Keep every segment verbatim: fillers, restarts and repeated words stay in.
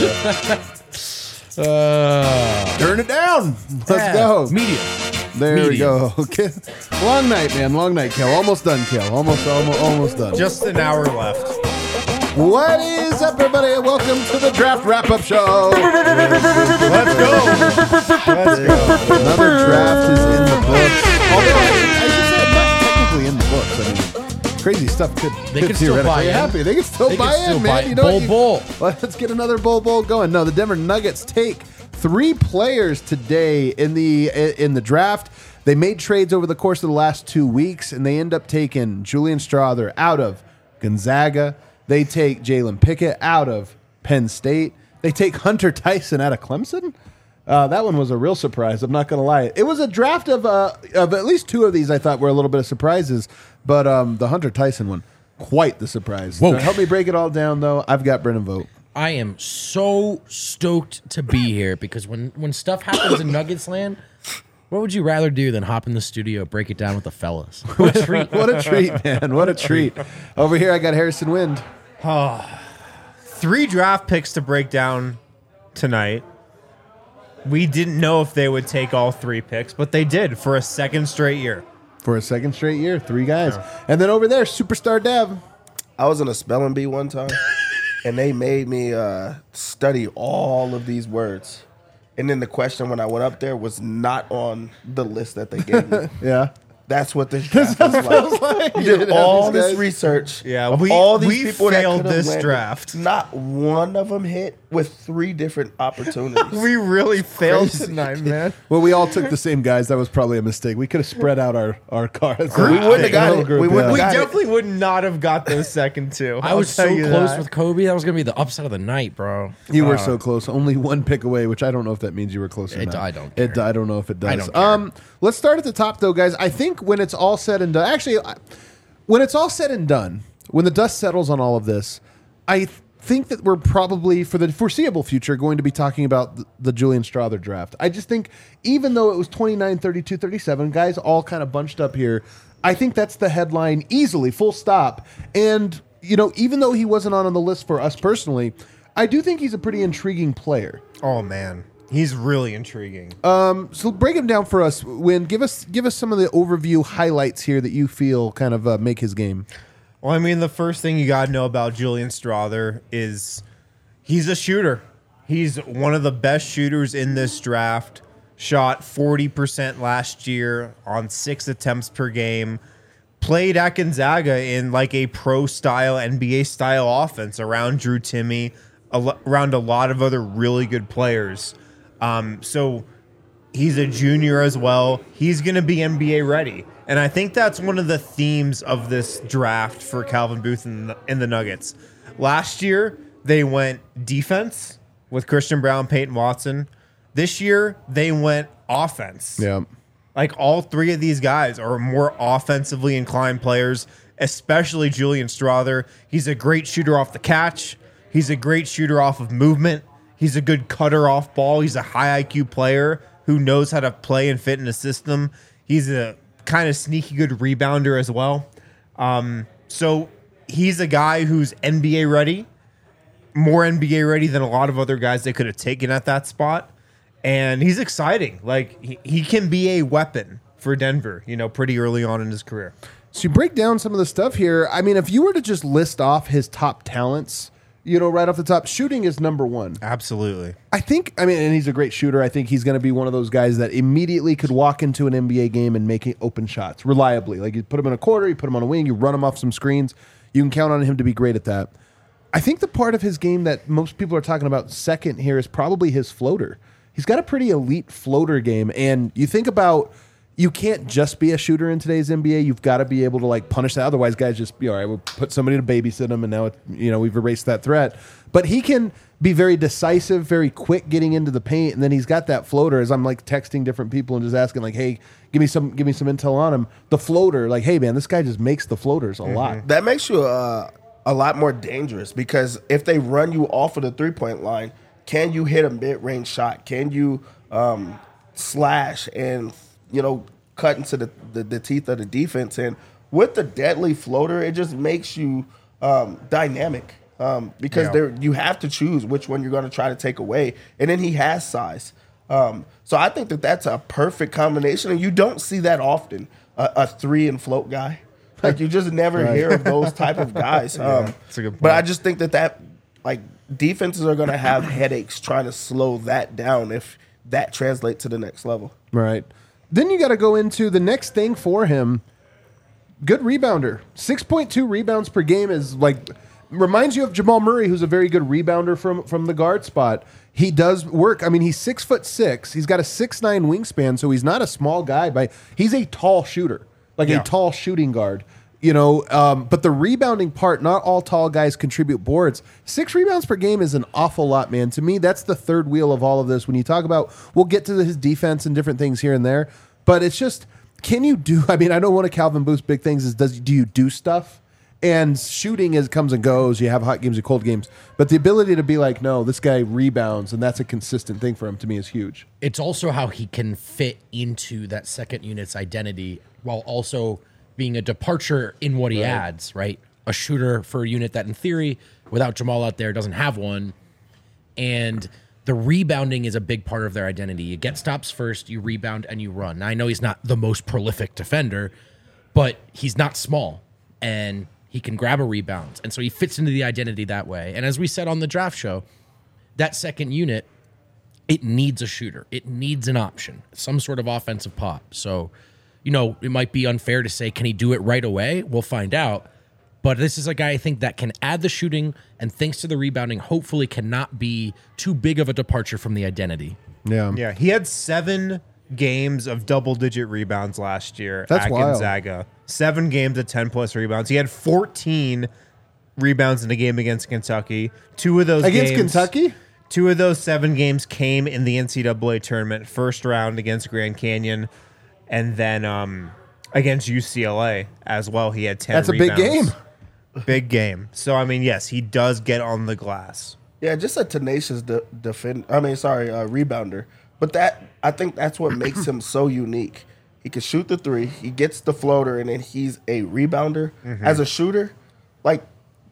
uh, Turn it down. Let's yeah, go. Medium. There Medium. we go. Okay. Long night, man. Long night, Kel. Almost done, Kel. Almost, almost, almost done. Just an hour left. What is up, everybody? Welcome to the Draft Wrap-Up Show. Let's go. Let's go. Another draft is in the books. Although, I, I should say, not technically in the books. I mean, crazy stuff could, They could can still theoretically buy in. happen. They can still They buy can still in, buy man. in. You know Bowl, what? You- bowl. Let's get another bowl bowl going. No, the Denver Nuggets take three players today in the in the draft. They made trades over the course of the last two weeks, and they end up taking Julian Strawther out of Gonzaga. They take Jalen Pickett out of Penn State. They take Hunter Tyson out of Clemson. Uh, that one was a real surprise. I'm not going to lie. It was a draft of uh, of at least two of these I thought were a little bit of surprises, but um, the Hunter Tyson one, quite the surprise. Whoa. To help me break it all down, though, I've got Brennan Vogt. I am so stoked to be here because when, when stuff happens in Nuggets land, what would you rather do than hop in the studio, break it down with the fellas? What a treat. What a treat, man. What a treat. Over here, I got Harrison Wind. Three draft picks to break down tonight. We didn't know if they would take all three picks, but they did for a second straight year. For a second straight year, three guys. And then over there, Superstar Dev. I was in a spelling bee one time, and they made me uh, study all of these words. And then the question when I went up there was not on the list that they gave me. Yeah. That's what this draft was like. You did all this research. Yeah, of we- all these we people that failed could have this landed. draft. Not one of them hit with three different opportunities. We really failed crazy. tonight, man. Well, we all took the same guys. That was probably a mistake. We could have spread out our, our cards. We wouldn't have got it. We wouldn't We Got it. definitely would not have got those second two. I I'll was so tell you close that. with Kobe. That was going to be the upset of the night, bro. You were so close. Only one pick away, which I don't know if that means you were close or It- not. I don't It, care. I don't know if it does. I don't care. Um, let's start at the top, though, guys. I think when it's all said and done, actually, I- when it's all said and done, when the dust settles on all of this, I th- think that we're probably, for the foreseeable future, going to be talking about the, the Julian Strawther draft. I just think, even though it was twenty-nine, thirty-two, thirty-seven, guys all kind of bunched up here, I think that's the headline easily, full stop. And, you know, even though he wasn't on, on the list for us personally, I do think he's a pretty intriguing player. Oh man, he's really intriguing. So break him down for us. Win, give us give us some of the overview highlights here that you feel kind of uh, make his game. Well, I mean, the first thing you got to know about Julian Strawther is he's a shooter. He's one of the best shooters in this draft. Shot forty percent last year on six attempts per game. Played at Gonzaga in like a pro-style, N B A-style offense around Drew Timme, a lo- around a lot of other really good players. Um, so he's a junior as well. He's going to be N B A ready. And I think that's one of the themes of this draft for Calvin Booth and the, and the Nuggets. Last year, they went defense with Christian Brown, Peyton Watson. This year, they went offense. Yeah. Like all three of these guys are more offensively inclined players, especially Julian Strawther. He's a great shooter off the catch. He's a great shooter off of movement. He's a good cutter off ball. He's a high I Q player who knows how to play and fit in a system. He's a kind of sneaky good rebounder as well. Um, so he's a guy who's N B A ready, more N B A ready than a lot of other guys they could have taken at that spot. And he's exciting. Like he, he can be a weapon for Denver, you know, pretty early on in his career. So you break down some of the stuff here. I mean, if you were to just list off his top talents, you know, right off the top, shooting is number one. Absolutely. I think, I mean, and he's a great shooter. I think he's going to be one of those guys that immediately could walk into an N B A game and make open shots reliably. Like you put him in a quarter, you put him on a wing, you run him off some screens. You can count on him to be great at that. I think the part of his game that most people are talking about second here is probably his floater. He's got a pretty elite floater game. And you think about, you can't just be a shooter in today's N B A. You've got to be able to like punish that. Otherwise, guys just be all right. We'll put somebody to babysit him, and now it, you know we've erased that threat. But he can be very decisive, very quick getting into the paint, and then he's got that floater. As I'm like texting different people and just asking like, "Hey, give me some, give me some intel on him." The floater, like, "Hey man, this guy just makes the floaters a mm-hmm. lot." That makes you uh, a lot more dangerous because if they run you off of the three point line, can you hit a mid range shot? Can you um, slash and you know, cut into the, the, the teeth of the defense? And with the deadly floater, it just makes you um, dynamic. um, because Yeah. there you have to choose which one you're going to try to take away, and then he has size. Um, so I think that that's a perfect combination, and you don't see that often. A, a three and float guy, like you just never Right. hear of those type of guys. Um, that's a good But I point. just think that that like defenses are going to have headaches trying to slow that down if that translates to the next level. Right. Then you got to go into the next thing for him. Good rebounder. six point two rebounds per game is like reminds you of Jamal Murray, who's a very good rebounder from from the guard spot. He does work. I mean, he's six foot six. He's got a six nine wingspan, so he's not a small guy. By he's a tall shooter, like Yeah. a tall shooting guard. You know, um, but the rebounding part, not all tall guys contribute boards. Six rebounds per game is an awful lot, man. To me, that's the third wheel of all of this. When you talk about, we'll get to his defense and different things here and there, but it's just, can you do, I mean, I know one of Calvin Booth's big things is, does do you do stuff? And shooting is comes and goes. You have hot games and cold games. But the ability to be like, no, this guy rebounds, and that's a consistent thing for him, to me, is huge. It's also how he can fit into that second unit's identity while also being a departure in what he adds, right? A shooter for a unit that, in theory, without Jamal out there, doesn't have one. And the rebounding is a big part of their identity. You get stops first, you rebound, and you run. Now, I know he's not the most prolific defender, but he's not small, and he can grab a rebound. And so he fits into the identity that way. And as we said on the draft show, that second unit, it needs a shooter. It needs an option, some sort of offensive pop. So, you know, it might be unfair to say, can he do it right away? We'll find out. But this is a guy I think that can add the shooting, and thanks to the rebounding, hopefully cannot be too big of a departure from the identity. Yeah. Yeah, he had seven games of double-digit rebounds last year That's at wild. Gonzaga. Seven games of ten-plus rebounds. He had fourteen rebounds in a game against Kentucky. Two of those Against games, Kentucky? Two of those seven games came in the N C double A tournament, first round against Grand Canyon, and then um, against U C L A as well. He had ten That's a big rebounds. game. Big game. So, I mean, yes, he does get on the glass. Yeah, just a tenacious de- defend. I mean, sorry, uh, rebounder. But that I think that's what makes him so unique. He can shoot the three. He gets the floater, and then he's a rebounder. Mm-hmm. As a shooter, like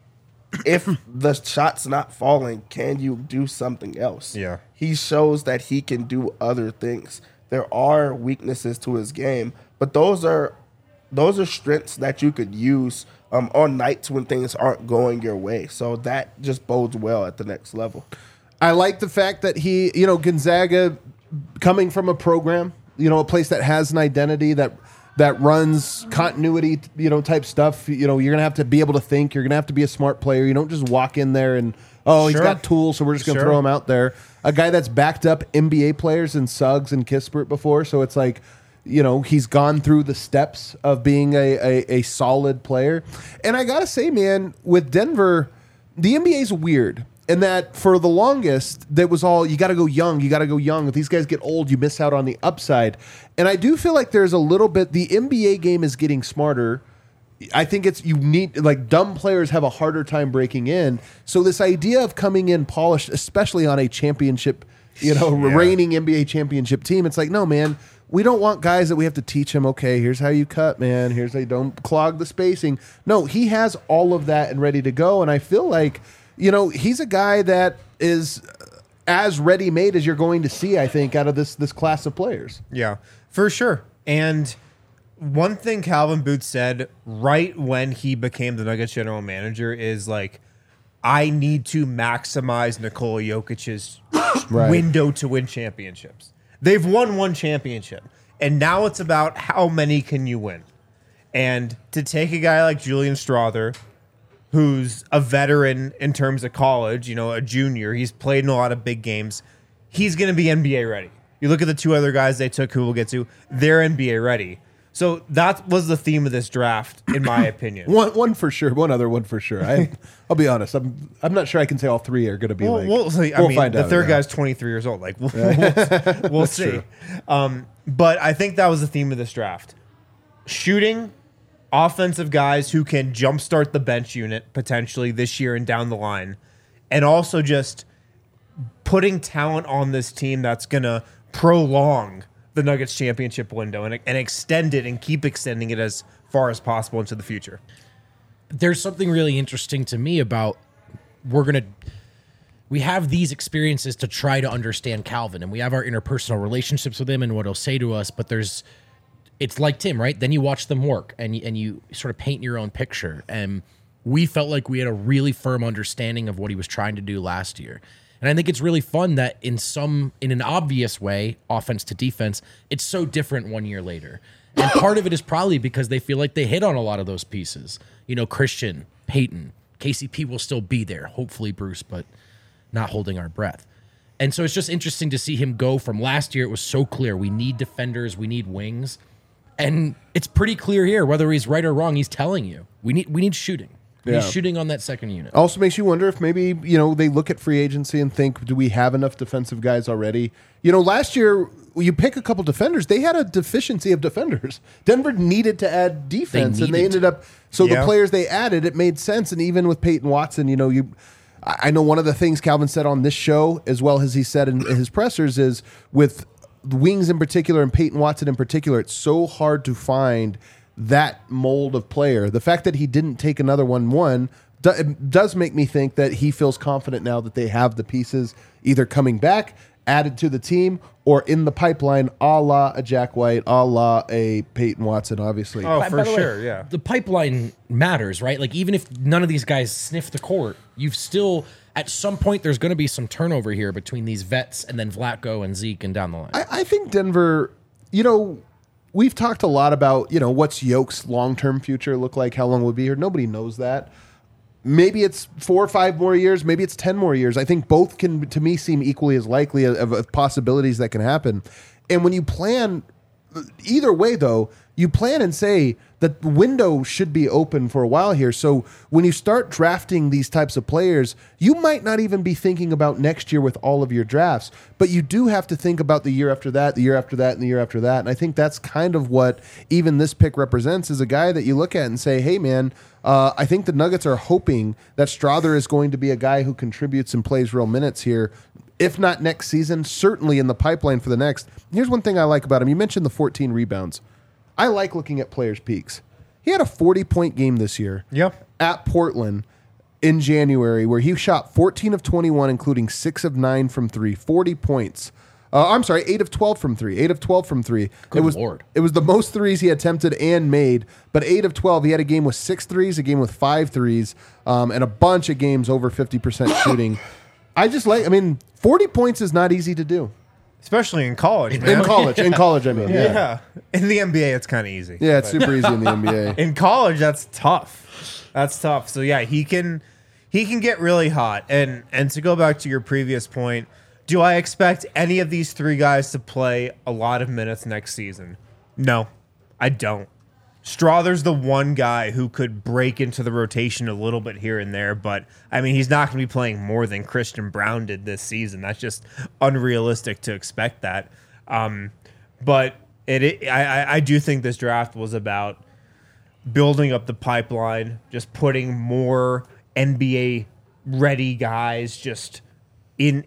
if the shot's not falling, can you do something else? Yeah. He shows that he can do other things. There are weaknesses to his game, but those are those are strengths that you could use um, on nights when things aren't going your way. So that just bodes well at the next level. I like the fact that he, you know, Gonzaga coming from a program, you know, a place that has an identity that that runs continuity, you know, type stuff. You know, you're gonna have to be able to think. You're gonna have to be a smart player. You don't just walk in there and oh, he's Sure. got tools, so we're just gonna Sure. throw him out there. A guy that's backed up N B A players and Suggs and Kispert before, so it's like, you know, he's gone through the steps of being a, a, a solid player. And I gotta say, man, with Denver, the N B A is weird. And that for the longest, that was all, you got to go young, you got to go young. If these guys get old, you miss out on the upside. And I do feel like there's a little bit, the N B A game is getting smarter. I think it's, you need, like, dumb players have a harder time breaking in. So this idea of coming in polished, especially on a championship, you know, Yeah. reigning N B A championship team, it's like, no, man, we don't want guys that we have to teach them, okay, here's how you cut, man. Here's how you don't clog the spacing. No, he has all of that and ready to go. And I feel like, you know, he's a guy that is as ready-made as you're going to see, I think, out of this this class of players. Yeah, for sure. And one thing Calvin Booth said right when he became the Nuggets general manager is like, I need to maximize Nikola Jokic's Right. window to win championships. They've won one championship, and now it's about how many can you win. And to take a guy like Julian Strawther, who's a veteran in terms of college, you know, a junior, he's played in a lot of big games, he's going to be N B A ready. You look at the two other guys they took, who we'll get to, they're N B A ready. So that was the theme of this draft, in my opinion. One one for sure, one other one for sure. I, I'll be honest, I'm I'm not sure I can say all three are going to be Well, like. we'll see. I we'll mean, find the out, third yeah. guy's twenty-three years old. Like, we'll, we'll, we'll see. Um, but I think that was the theme of this draft. Shooting, offensive guys who can jumpstart the bench unit potentially this year and down the line, and also just putting talent on this team that's going to prolong the Nuggets championship window and, and extend it and keep extending it as far as possible into the future. There's something really interesting to me about we're gonna we have these experiences to try to understand Calvin, and we have our interpersonal relationships with him and what he'll say to us. But there's, it's like Tim, right? Then you watch them work, and you, and you sort of paint your own picture. And we felt like we had a really firm understanding of what he was trying to do last year. And I think it's really fun that in some, in an obvious way, offense to defense, it's so different one year later. And part of it is probably because they feel like they hit on a lot of those pieces. You know, Christian, Peyton, K C P will still be there. Hopefully Bruce, but not holding our breath. And so it's just interesting to see him go from last year. It was so clear. We need defenders. We need wings. And it's pretty clear here, whether he's right or wrong, he's telling you, we need, we need shooting. Yeah. He's shooting on that second unit. Also makes you wonder if maybe, you know, they look at free agency and think, do we have enough defensive guys already? You know, last year, you pick a couple defenders, they had a deficiency of defenders. Denver needed to add defense, They and they needed ended up, so Yeah. the players they added, it made sense. And even with Peyton Watson, you know, you, I I know one of the things Calvin said on this show, as well as he said in his pressers, is with wings in particular and Peyton Watson in particular, it's so hard to find that mold of player. The fact that he didn't take another one, one do, it does make me think that he feels confident now that they have the pieces either coming back, added to the team, or in the pipeline, a la a Jack White, a la a Peyton Watson, obviously. Oh, By- for by the way, sure, yeah. The pipeline matters, right? Like, even if none of these guys sniff the court, you've still, at some point, there's going to be some turnover here between these vets and then Vlatko and Zeke and down the line. I, I think Denver, you know, we've talked a lot about, you know, what's Yoke's long-term future look like, how long we'll be here. Nobody knows that. Maybe it's four or five more years. Maybe it's ten more years. I think both can, to me, seem equally as likely of, of possibilities that can happen. And when you plan, either way, though, you plan and say that the window should be open for a while here. So when you start drafting these types of players, you might not even be thinking about next year with all of your drafts, but you do have to think about the year after that, the year after that, and the year after that. And I think that's kind of what even this pick represents, is a guy that you look at and say, hey, man, uh, I think the Nuggets are hoping that Strother is going to be a guy who contributes and plays real minutes here. If not next season, certainly in the pipeline for the next. Here's one thing I like about him. You mentioned the fourteen rebounds. I like looking at players' peaks. He had a forty-point game this year Yep. at Portland in January where he shot fourteen of twenty-one, including six of nine from three, forty points. Uh, I'm sorry, eight of twelve from three, eight of twelve from three. Good it was, Lord. It was the most threes he attempted and made, but eight of twelve. He had a game with six threes, a game with five threes, um, and a bunch of games over fifty percent shooting. I just like, I mean, forty points is not easy to do. Especially in college, man. In college, in college, I mean. Yeah. Yeah. In the N B A, it's kind of easy. Yeah, it's super easy in the N B A. In college, that's tough. That's tough. So yeah, he can he can get really hot. And and to go back to your previous point, do I expect any of these three guys to play a lot of minutes next season? No, I don't. Strother's the one guy who could break into the rotation a little bit here and there, but I mean, he's not going to be playing more than Christian Brown did this season. That's just unrealistic to expect that. Um, but it, it I, I do think this draft was about building up the pipeline, just putting more N B A ready guys just in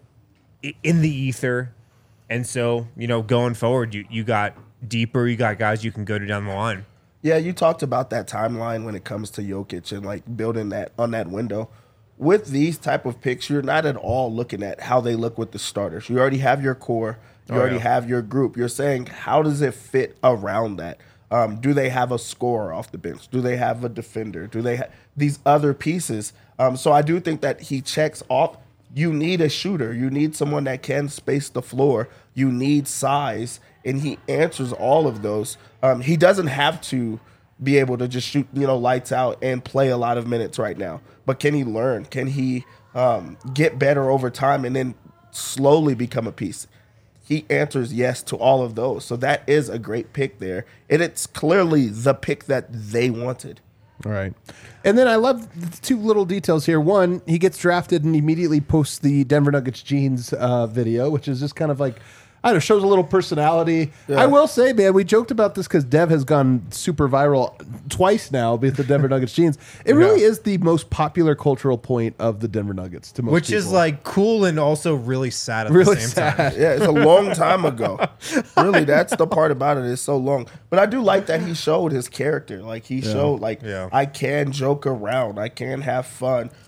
in the ether. And so, you know, going forward, you, you got deeper, you got guys you can go to down the line. Yeah, you talked about that timeline when it comes to Jokic and like building that on that window. With these type of picks, you're not at all looking at how they look with the starters. You already have your core. You Oh, already yeah. have your group. You're saying, how does it fit around that? Um, do they have a scorer off the bench? Do they have a defender? Do they have these other pieces? Um, so I do think that he checks off. You need a shooter. You need someone that can space the floor. You need size. And he answers all of those. Um, he doesn't have to be able to just shoot, you know, lights out and play a lot of minutes right now. But can he learn? Can he um, get better over time and then slowly become a piece? He answers yes to all of those. So that is a great pick there. And it's clearly the pick that they wanted. All right. And then I love the two little details here. One, he gets drafted and immediately posts the Denver Nuggets jeans uh, video, which is just kind of like, I don't know, shows a little personality. Yeah. I will say, man, we joked about this because Dev has gone super viral twice now with the Denver Nuggets jeans. It really Yeah. is the most popular cultural point of the Denver Nuggets to most Which is people. like cool and also really sad at really the same sad. time. Yeah, it's a long time ago. Really, that's the part about it. It's so long. But I do like that he showed his character. Like he showed, like Yeah. I can joke around, I can have fun.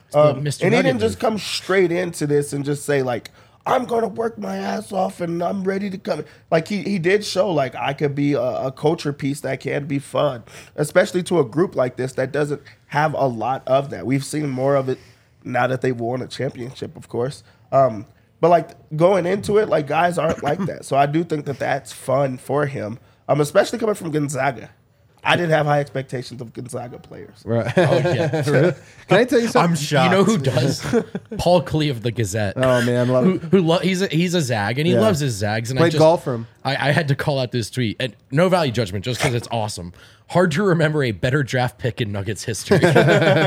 Um, Mister and he Nugget didn't just move. come straight into this and just say like, I'm gonna work my ass off and I'm ready to come. Like he he did show like I could be a, a culture piece that can be fun, especially to a group like this that doesn't have a lot of that. We've seen more of it now that they've won a championship, of course. Um, but like going into it, like guys aren't like that. So I do think that that's fun for him, um, especially coming from Gonzaga. I didn't have high expectations of Gonzaga players. Right. Oh, yeah. Can I tell you something? I'm shocked. You know who does? Paul Klee of the Gazette. Oh man, love who, it. who lo- he's a, he's a Zag and he Yeah. loves his Zags. And I Played just, golf for him. I, I had to call out this tweet and no value judgment just because it's awesome. Hard to remember a better draft pick in Nuggets history. Paul,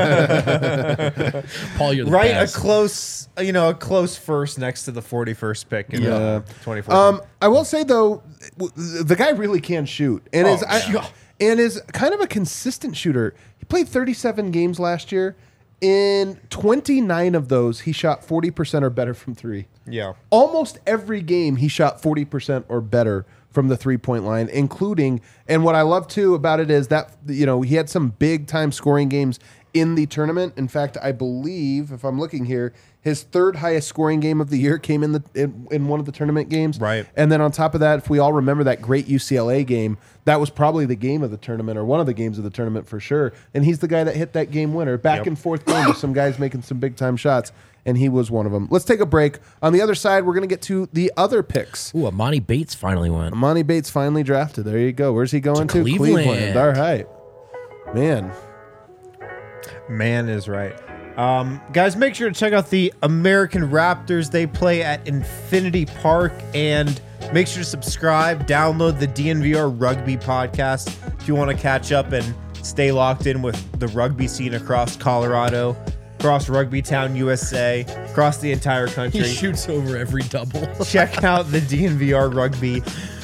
you're the Right, best. a close, you know, a close first next to the forty-first pick in Yeah. uh, twenty fourteen. Um, I will say though, w- the guy really can shoot, and is I, yeah. and is kind of a consistent shooter. He played thirty-seven games last year. In twenty-nine of those, he shot forty percent or better from three. yeah. Almost every game, he shot forty percent or better from the three-point line, including, and what I love too about it is that, you know, he had some big-time scoring games in the tournament. In fact, I believe, if I'm looking here, his third highest scoring game of the year came in the in, in one of the tournament games. Right. And then on top of that, if we all remember that great U C L A game, that was probably the game of the tournament or one of the games of the tournament for sure. And he's the guy that hit that game winner. Back Yep. and forth game with some guys making some big-time shots, and he was one of them. Let's take a break. On the other side, we're going to get to the other picks. Ooh, Amani Bates finally went. Monty Bates finally drafted. There you go. Where's he going to? To Cleveland. All right. Man. Man is right. Um, guys, make sure to check out the American Raptors. They play at Infinity Park. And make sure to subscribe, download the D N V R Rugby podcast if you want to catch up and stay locked in with the rugby scene across Colorado, across Rugby Town, U S A, across the entire He country. shoots over every double. Check out the D N V R Rugby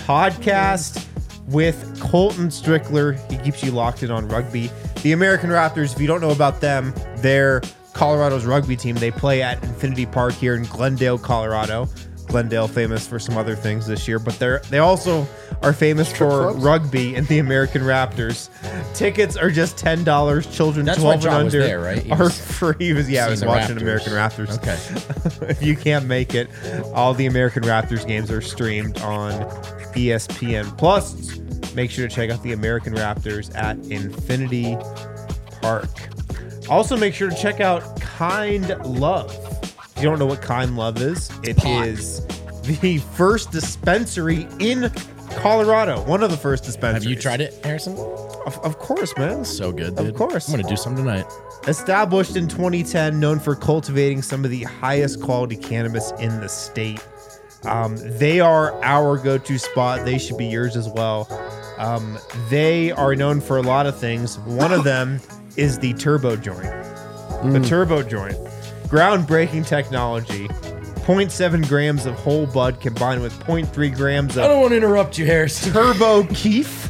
podcast with Colton Strickler. He keeps you locked in on rugby. The American Raptors, if you don't know about them, they're Colorado's rugby team. They play at Infinity Park here in Glendale, Colorado. Glendale famous for some other things this year, but they're they also are famous Strip for clubs? rugby and the American Raptors. Tickets are just ten dollars. Children That's why twelve and John was under there, right? He are was free. He was, yeah, I was seeing the watching Raptors. American Raptors. Okay. If you can't make it, all the American Raptors games are streamed on E S P N Plus. Make sure to check out the American Raptors at Infinity Park. Also, make sure to check out Kind Love. If you don't know what Kind Love is, it pot. is the first dispensary in Colorado. One of the first dispensaries. Have you tried it, Harrison? Of, of course, man. So good, Of dude. course. I'm going to do some tonight. Established in twenty ten, known for cultivating some of the highest quality cannabis in the state. Um, they are our go-to spot. They should be yours as well. Um, they are known for a lot of things. One of them is the turbo joint. The turbo joint. Groundbreaking technology. zero point seven grams of whole bud combined with zero point three grams I of don't want to interrupt you, Harrison. turbo keef.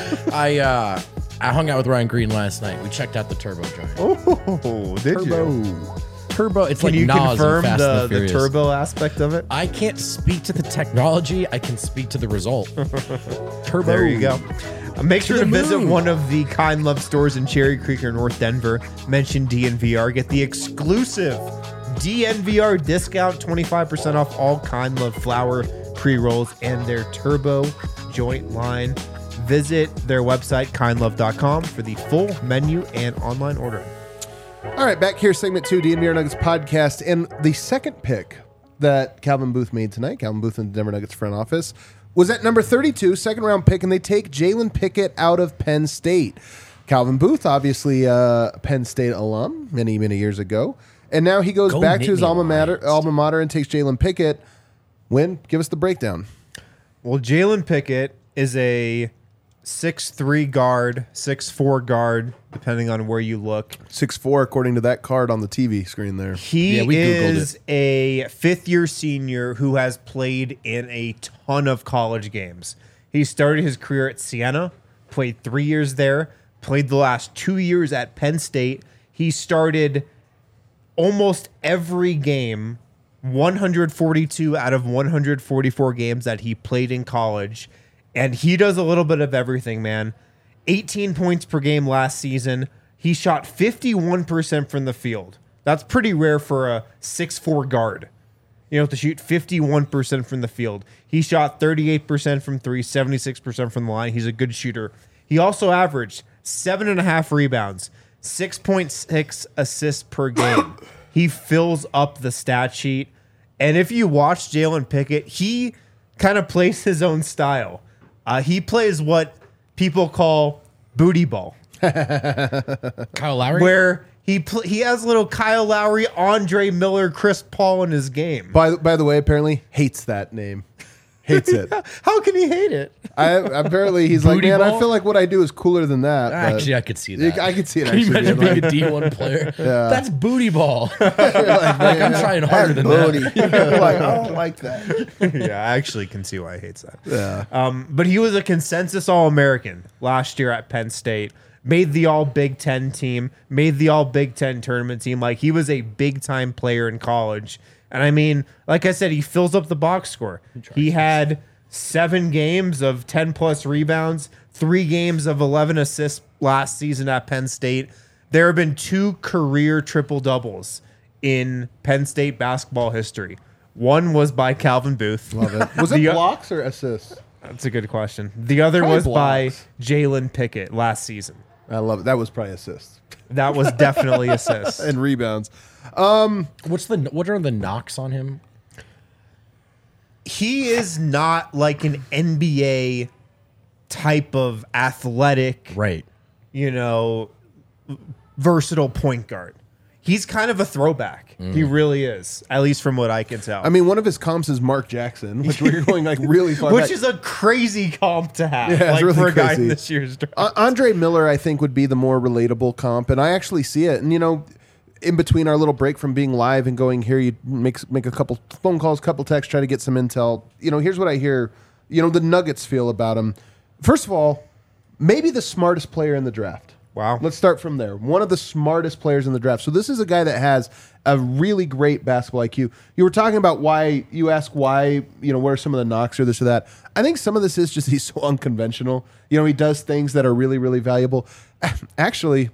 I uh, I hung out with Ryan Green last night. We checked out the turbo joint. Oh, did you? Turbo. It's Can like you Nas in confirm Fast the, and the the Furious. turbo aspect of it? I can't speak to the technology. I can speak to the result. Turbo. There you go. Uh, Make sure to the visit moon. one of the Kind Love stores in Cherry Creek or North Denver. Mention D N V R. Get the exclusive D N V R discount, twenty-five percent off all Kind Love flower pre-rolls and their turbo joint line. Visit their website, kind love dot com, for the full menu and online ordering. All right, back here, segment two, D N V R Nuggets podcast. And the second pick that Calvin Booth made tonight, Calvin Booth in the Denver Nuggets front office, was at number thirty-two, second round pick, and they take Jalen Pickett out of Penn State. Calvin Booth, obviously a Penn State alum many, many years ago. And now he goes Go back to his Nittany alma mater, Lions. alma mater and takes Jalen Pickett. Win, give us the breakdown. Well, Jalen Pickett is a six three guard, six four guard, depending on where you look. six four, according to that card on the T V screen there. He Yeah, we Googled is a fifth year senior who has played in a ton of college games. He started his career at Siena, played three years there, played the last two years at Penn State. He started almost every game, one hundred forty-two out of one hundred forty-four games that he played in college. And he does a little bit of everything, man. eighteen points per game last season. He shot fifty-one percent from the field. That's pretty rare for a six foot four guard. You know, to shoot fifty-one percent from the field. He shot thirty-eight percent from three, seventy-six percent from the line. He's a good shooter. He also averaged seven and a half rebounds, six point six assists per game. He fills up the stat sheet. And if you watch Jalen Pickett, he kind of plays his own style. Uh, he plays what people call booty ball, Kyle Lowry? where he pl- he has little Kyle Lowry, Andre Miller, Chris Paul in his game. By by the way, apparently hates that name. Hates it. How can he hate it? I apparently he's like, Booty man, I ball? feel like what I do is cooler than that. but- Actually, I could see that. I could see it. Can you Actually, imagine being being a D one player? Yeah. That's booty ball. like, I'm trying harder than Booty. that. like, I don't like that. Yeah, I actually can see why he hates that. Yeah. Um, but he was a consensus All-American last year at Penn State. Made the All Big Ten team. Made the All Big Ten tournament team. Like, he was a big-time player in college. And I mean, like I said, he fills up the box score. He had seven games of ten-plus rebounds, three games of eleven assists last season at Penn State. There have been two career triple-doubles in Penn State basketball history. One was by Calvin Booth. Love it. Was it The- blocks or assists? That's a good question. The other Probably was by blocks. Jalen Pickett last season. I love it. That was probably assists That was definitely assists. and rebounds. What's the what are the knocks on him? He is not like an N B A type of athletic, Right. you know, versatile point guard. He's kind of a throwback. He really is, at least from what I can tell. I mean, one of his comps is Mark Jackson, which we're going like really far Which back. is a crazy comp to have, Yeah, it's like really for a guy crazy. in this year's draft. Uh, Andre Miller, I think, would be the more relatable comp, and I actually see it. And you know, in between our little break from being live and going here, you make make a couple phone calls, couple texts, try to get some intel. You know, here's what I hear. You know, the Nuggets feel about him. First of all, maybe the smartest player in the draft. Wow. Let's start from there. One of the smartest players in the draft. So this is a guy that has a really great basketball I Q. You were talking about why, you ask why, you know, where are some of the knocks or this or that. I think some of this is just he's so unconventional. You know, he does things that are really, really valuable. Actually,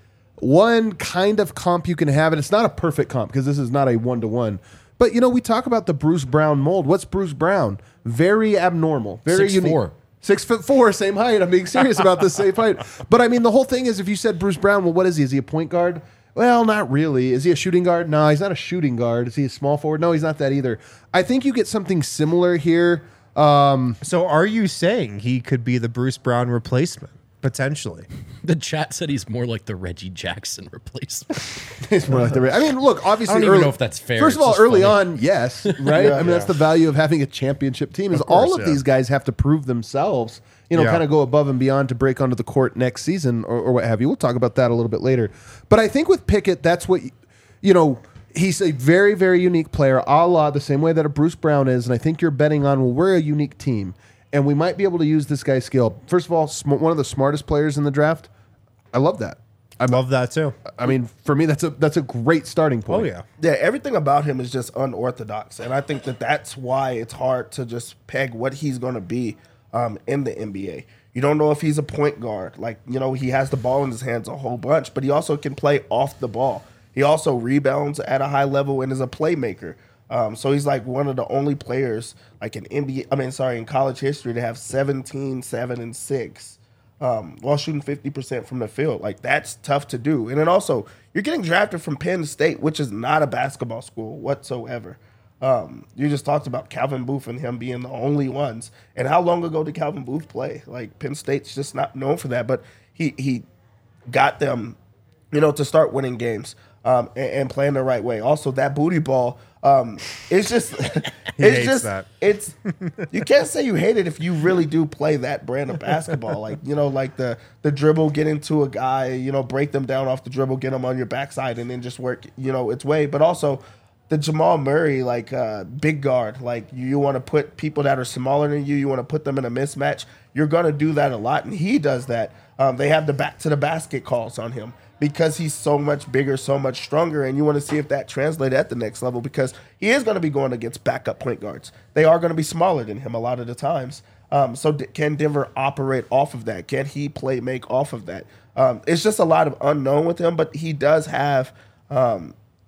one kind of comp you can have, and it's not a perfect comp because this is not a one-to-one, but, you know, we talk about the Bruce Brown mold. What's Bruce Brown? Very abnormal. Very Six unique. four. Six foot four, same height. I'm being serious about this same height. But I mean, the whole thing is if you said Bruce Brown, well, what is he? Is he a point guard? Well, not really. Is he a shooting guard? No, he's not a shooting guard. Is he a small forward? No, he's not that either. I think you get something similar here. Um, So are you saying he could be the Bruce Brown replacement? Potentially. The chat said he's more like the Reggie Jackson replacement. it's more like the. I mean, look, obviously, I don't even early- know if that's fair. First of It's all, just early funny. on, yes, right. I mean, that's the value of having a championship team. Is all course, of yeah. these guys have to prove themselves. You know, Yeah. kind of go above and beyond to break onto the court next season or, or what have you. We'll talk about that a little bit later. But I think with Pickett, that's what you know. He's a very, very unique player, a la the same way that a Bruce Brown is. And I think you're betting on, well, we're a unique team. And we might be able to use this guy's skill. First of all, sm- one of the smartest players in the draft. I love that. I love that too. I mean, for me, that's a that's a great starting point. Oh, yeah. Yeah, everything about him is just unorthodox, and I think that that's why it's hard to just peg what he's going to be um, in the N B A. You don't know if he's a point guard. Like, you know, he has the ball in his hands a whole bunch, but he also can play off the ball. He also rebounds at a high level and is a playmaker. Um, so he's like one of the only players, like in N B A, I mean, sorry, in college history to have seventeen, seven, and six. Um, while shooting fifty percent from the field. Like, that's tough to do. And then also, you're getting drafted from Penn State, which is not a basketball school whatsoever. Um, you just talked about Calvin Booth and him being the only ones. And how long ago did Calvin Booth play? Like, Penn State's just not known for that. But he he got them, you know, to start winning games um, and, and playing the right way. Also, that booty ball, um, it's just, it's hates just, that. it's, you can't say you hate it if you really do play that brand of basketball. Like, you know, like the the dribble, get into a guy, you know, break them down off the dribble, get them on your backside, and then just work, you know, its way. But also the Jamal Murray, like uh, big guard, like you, you want to put people that are smaller than you, you want to put them in a mismatch. You're going to do that a lot, and he does that. Um, they have the back to the basket calls on him because he's so much bigger, so much stronger, and you want to see if that translates at the next level because he is going to be going against backup point guards. They are going to be smaller than him a lot of the times. Um, so d- can Denver operate off of that? Can he play make off of that? Um, it's just a lot of unknown with him, but he does have um,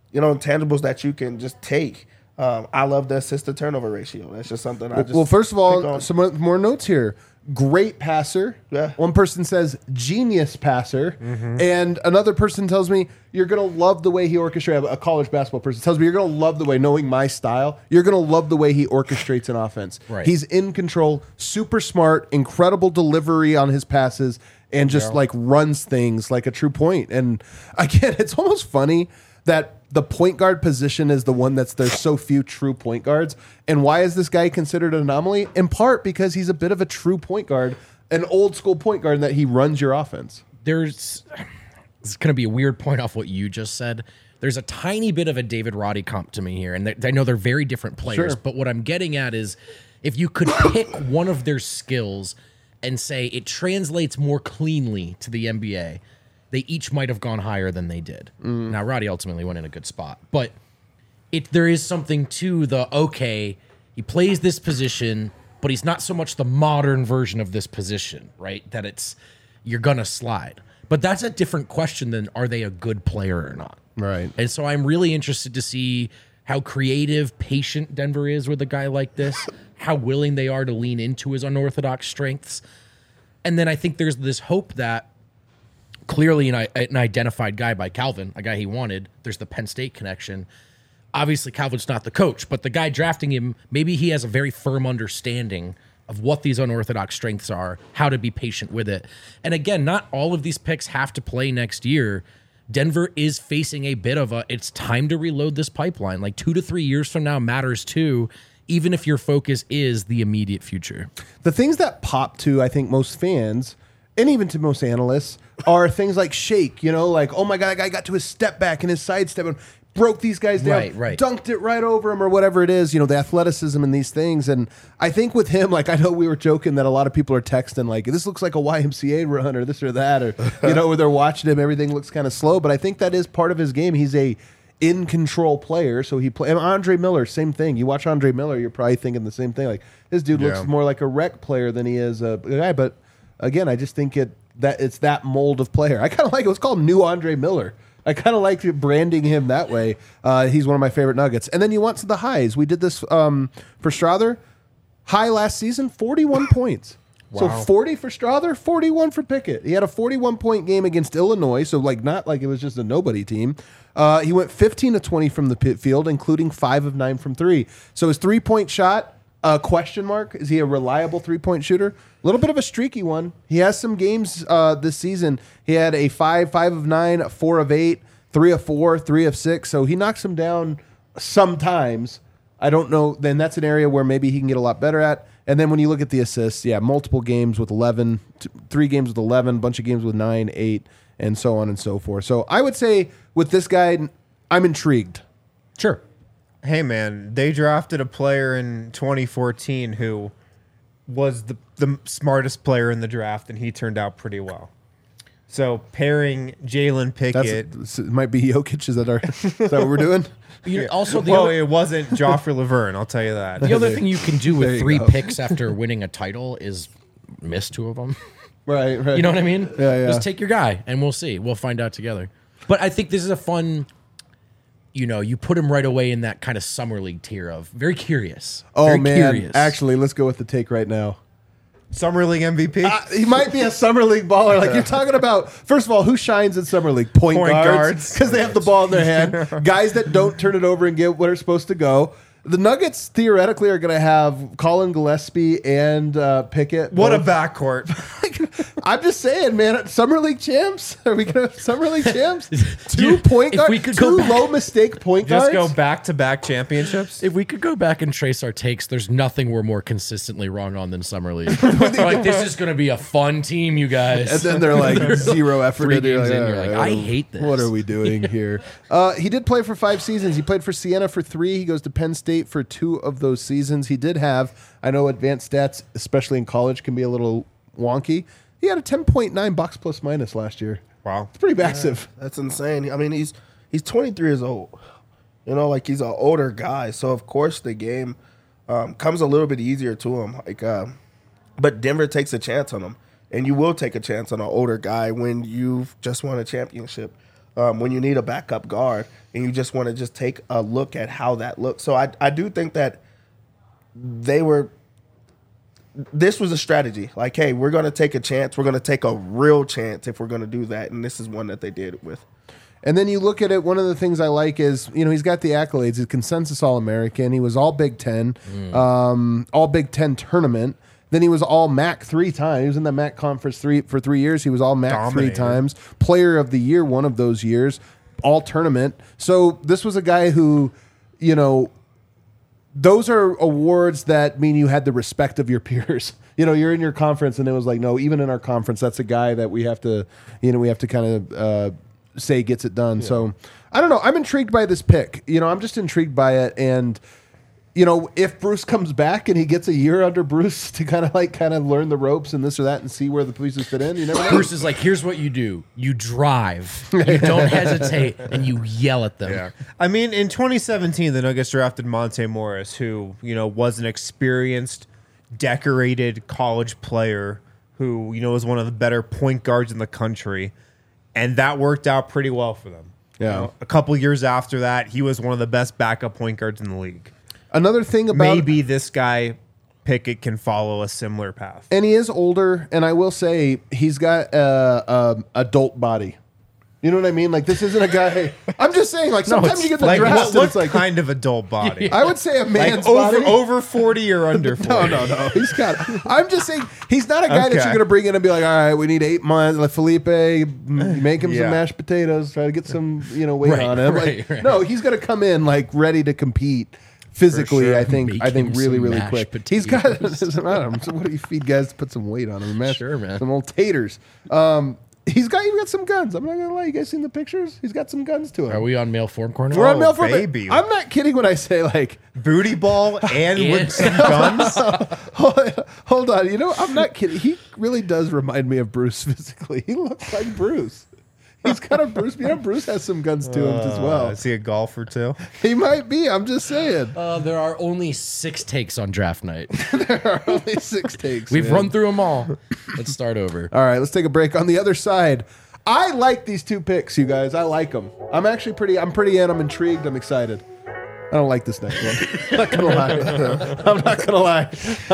you know, intangibles that you can just take. Um, I love the assist to turnover ratio. That's just something I just Well, first of pick all, on. some more notes here. Great passer. Yeah. One person says genius passer, Mm-hmm. and another person tells me you're gonna love the way he orchestrates. A college basketball person tells me you're gonna love the way, knowing my style, you're gonna love the way he orchestrates an offense. Right. He's in control, super smart, incredible delivery on his passes, and just like runs things like a true point. And again, it's almost funny that the point guard position is the one that's there's so few true point guards. And why is this guy considered an anomaly? In part because he's a bit of a true point guard, an old school point guard, in that he runs your offense. There's this is going to be a weird point off what you just said. There's a tiny bit of a David Roddy comp to me here, and th- I know they're very different players. Sure. But what I'm getting at is, if you could pick one of their skills and say it translates more cleanly to the N B A, they each might have gone higher than they did. Now, Roddy ultimately went in a good spot, but it there is something to the, okay, he plays this position, but he's not so much the modern version of this position, right? That it's, you're going to slide. But that's a different question than are they a good player or not? Right. And so I'm really interested to see how creative, patient Denver is with a guy like this, how willing they are to lean into his unorthodox strengths. And then I think there's this hope that clearly an, an identified guy by Calvin, a guy he wanted, there's the Penn State connection. Obviously, Calvin's not the coach, but the guy drafting him, maybe he has a very firm understanding of what these unorthodox strengths are, how to be patient with it. And again, not all of these picks have to play next year. Denver is facing a bit of a, it's time to reload this pipeline. Like two to three years from now matters too, even if your focus is the immediate future. The things that pop to, I think, most fans, and even to most analysts, are things like shake, you know, like, oh my God, that guy got to his step back and his side step and broke these guys down, Right, right. dunked it right over him or whatever it is, you know, the athleticism and these things. And I think with him, like, I know we were joking that a lot of people are texting, like, this looks like a Y M C A run or this or that, or, you know, where they're watching him, everything looks kind of slow. But I think that is part of his game. He's a in control player. So he play and Andre Miller, same thing. You watch Andre Miller, you're probably thinking the same thing. Like, this dude Yeah. looks more like a rec player than he is a guy. But again, I just think it that it's that mold of player. I kind of like it. It's called New Andre Miller. I kind of like branding him that way. Uh, he's one of my favorite Nuggets. And then you want to the highs. We did this um, for Strother. High last season, forty-one points. So Wow. forty for Strother, forty-one for Pickett. He had a forty-one point game against Illinois, so like not like it was just a nobody team. Uh, he went fifteen to twenty from the pit field, including five of nine from three. So his three point shot, uh, question mark, is he a reliable three point shooter? A little bit of a streaky one. He has some games uh, this season. He had a five, five of nine, a four of eight, three of four, three of six. So he knocks him down sometimes. I don't know. Then that's an area where maybe he can get a lot better at. And then when you look at the assists, yeah, multiple games with eleven, t- three games with eleven, bunch of games with nine, eight, and so on and so forth. So I would say with this guy, I'm intrigued. Sure. Hey man, they drafted a player in twenty fourteen who was the the smartest player in the draft, and he turned out pretty well. So pairing Jalen Pickett. That's, it might be Jokic. Is that our? Is that what we're doing? You know, also, the Well, other, it wasn't Joffrey Laverne, I'll tell you that. the other thing you can do There with you three go. picks after winning a title is miss two of them. Right, right. You know what I mean? Yeah, yeah. Just take your guy, and we'll see. We'll find out together. But I think this is a fun. You know, you put him right away in that kind of summer league tier of very curious. Oh very man! curious. Actually, let's go with the take right now. Summer League M V P? Uh, he might be a summer league baller. Like you're talking about. First of all, who shines in summer league? Point, Point guards, guards. because they have the ball in their hand. Guys that don't turn it over and get what are supposed to go. The Nuggets theoretically are going to have Colin Gillespie and uh, Pickett. What a both. backcourt. I'm just saying, man. Summer league champs. Are we going to have summer league champs? Two Dude, point if guards. we could two go back- low mistake point Just guards. go back to back championships. If we could go back and trace our takes, there's nothing we're more consistently wrong on than summer league. Like this is going to be a fun team, you guys. And then they're like zero effort. Three and you're games in, "All you're like, right, I what are- hate this." What are we doing here? uh, he did play for five seasons. He played for Siena for three. He goes to Penn State for two of those seasons. He did have, I know advanced stats, especially in college, can be a little wonky. He had a ten point nine box plus minus last year. Wow. It's pretty massive. That's insane. I mean, he's he's twenty-three years old. You know, like he's an older guy, so of course the game um, comes a little bit easier to him. Like, uh, but Denver takes a chance on him, and you will take a chance on an older guy when you've just won a championship. um, when you need a backup guard and you just want to just take a look at how that looks. So I, I do think that they were, this was a strategy. Like, hey, we're going to take a chance. We're going to take a real chance if we're going to do that. And this is one that they did it with. And then you look at it, one of the things I like is, you know, he's got the accolades. He's consensus All-American. He was all Big Ten, mm. um, all Big Ten tournament. Then he was all M A C three times. He was in the M A C conference three for three years. He was all M A C Dominated. three times. Player of the year one of those years. All tournament. So this was a guy who, you know, those are awards that mean you had the respect of your peers. You know, you're in your conference and it was like, no, even in our conference, that's a guy that we have to, you know, we have to kind of uh, say gets it done. Yeah. So I don't know. I'm intrigued by this pick. You know, I'm just intrigued by it. And, you know, if Bruce comes back and he gets a year under Bruce to kind of like kind of learn the ropes and this or that and see where the pieces fit in, you never know. Bruce is like, here's what you do. You drive. You don't hesitate and you yell at them. Yeah. I mean, in twenty seventeen, the Nuggets drafted Monte Morris, who, you know, was an experienced, decorated college player who, you know, was one of the better point guards in the country. And that worked out pretty well for them. Yeah. You know, a couple years after that, he was one of the best backup point guards in the league. Another thing about maybe this guy Pickett can follow a similar path, and he is older. And I will say he's got a, a adult body. You know what I mean? Like this isn't a guy. I'm just saying. Like sometimes you get the like draft. what, and what it's like kind of adult body? I would say a man's like over body. over forty or under forty. No, no, no. He's got. I'm just saying he's not a guy Okay. that you're going to bring in and be like, all right, we need eight months. Let Felipe m- make him Yeah. some mashed potatoes. Try to get some, you know, weight Right, on him. right, Like, right. No, he's going to come in like ready to compete. Physically, sure. I think Make I think him really, some really mashed quick. He's got. potatoes. Doesn't matter. So what do you feed guys to put some weight on him? Mash, Sure, man. Some old taters. Um, he's got. He's got some guns. I'm not gonna lie. You guys seen the pictures? He's got some guns to him. Are we on male form corner? We're on Oh, Mel Form. baby. I'm not kidding when I say like. Booty ball and And- with some guns. Hold, hold on, you know I'm not kidding. He really does remind me of Bruce physically. He looks like Bruce. He's kind of Bruce. You know, Bruce has some guns to him as Uh, well. is he a golfer too? He might be. I'm just saying. Uh, there are only six takes on draft night. There are only six takes. We've man. run through them all. Let's start over. All right, let's take a break. On the other side, I like these two picks, you guys. I like them. I'm actually pretty. I'm pretty in. I'm intrigued. I'm excited. I don't like this next one. I'm not gonna lie. I'm not gonna lie.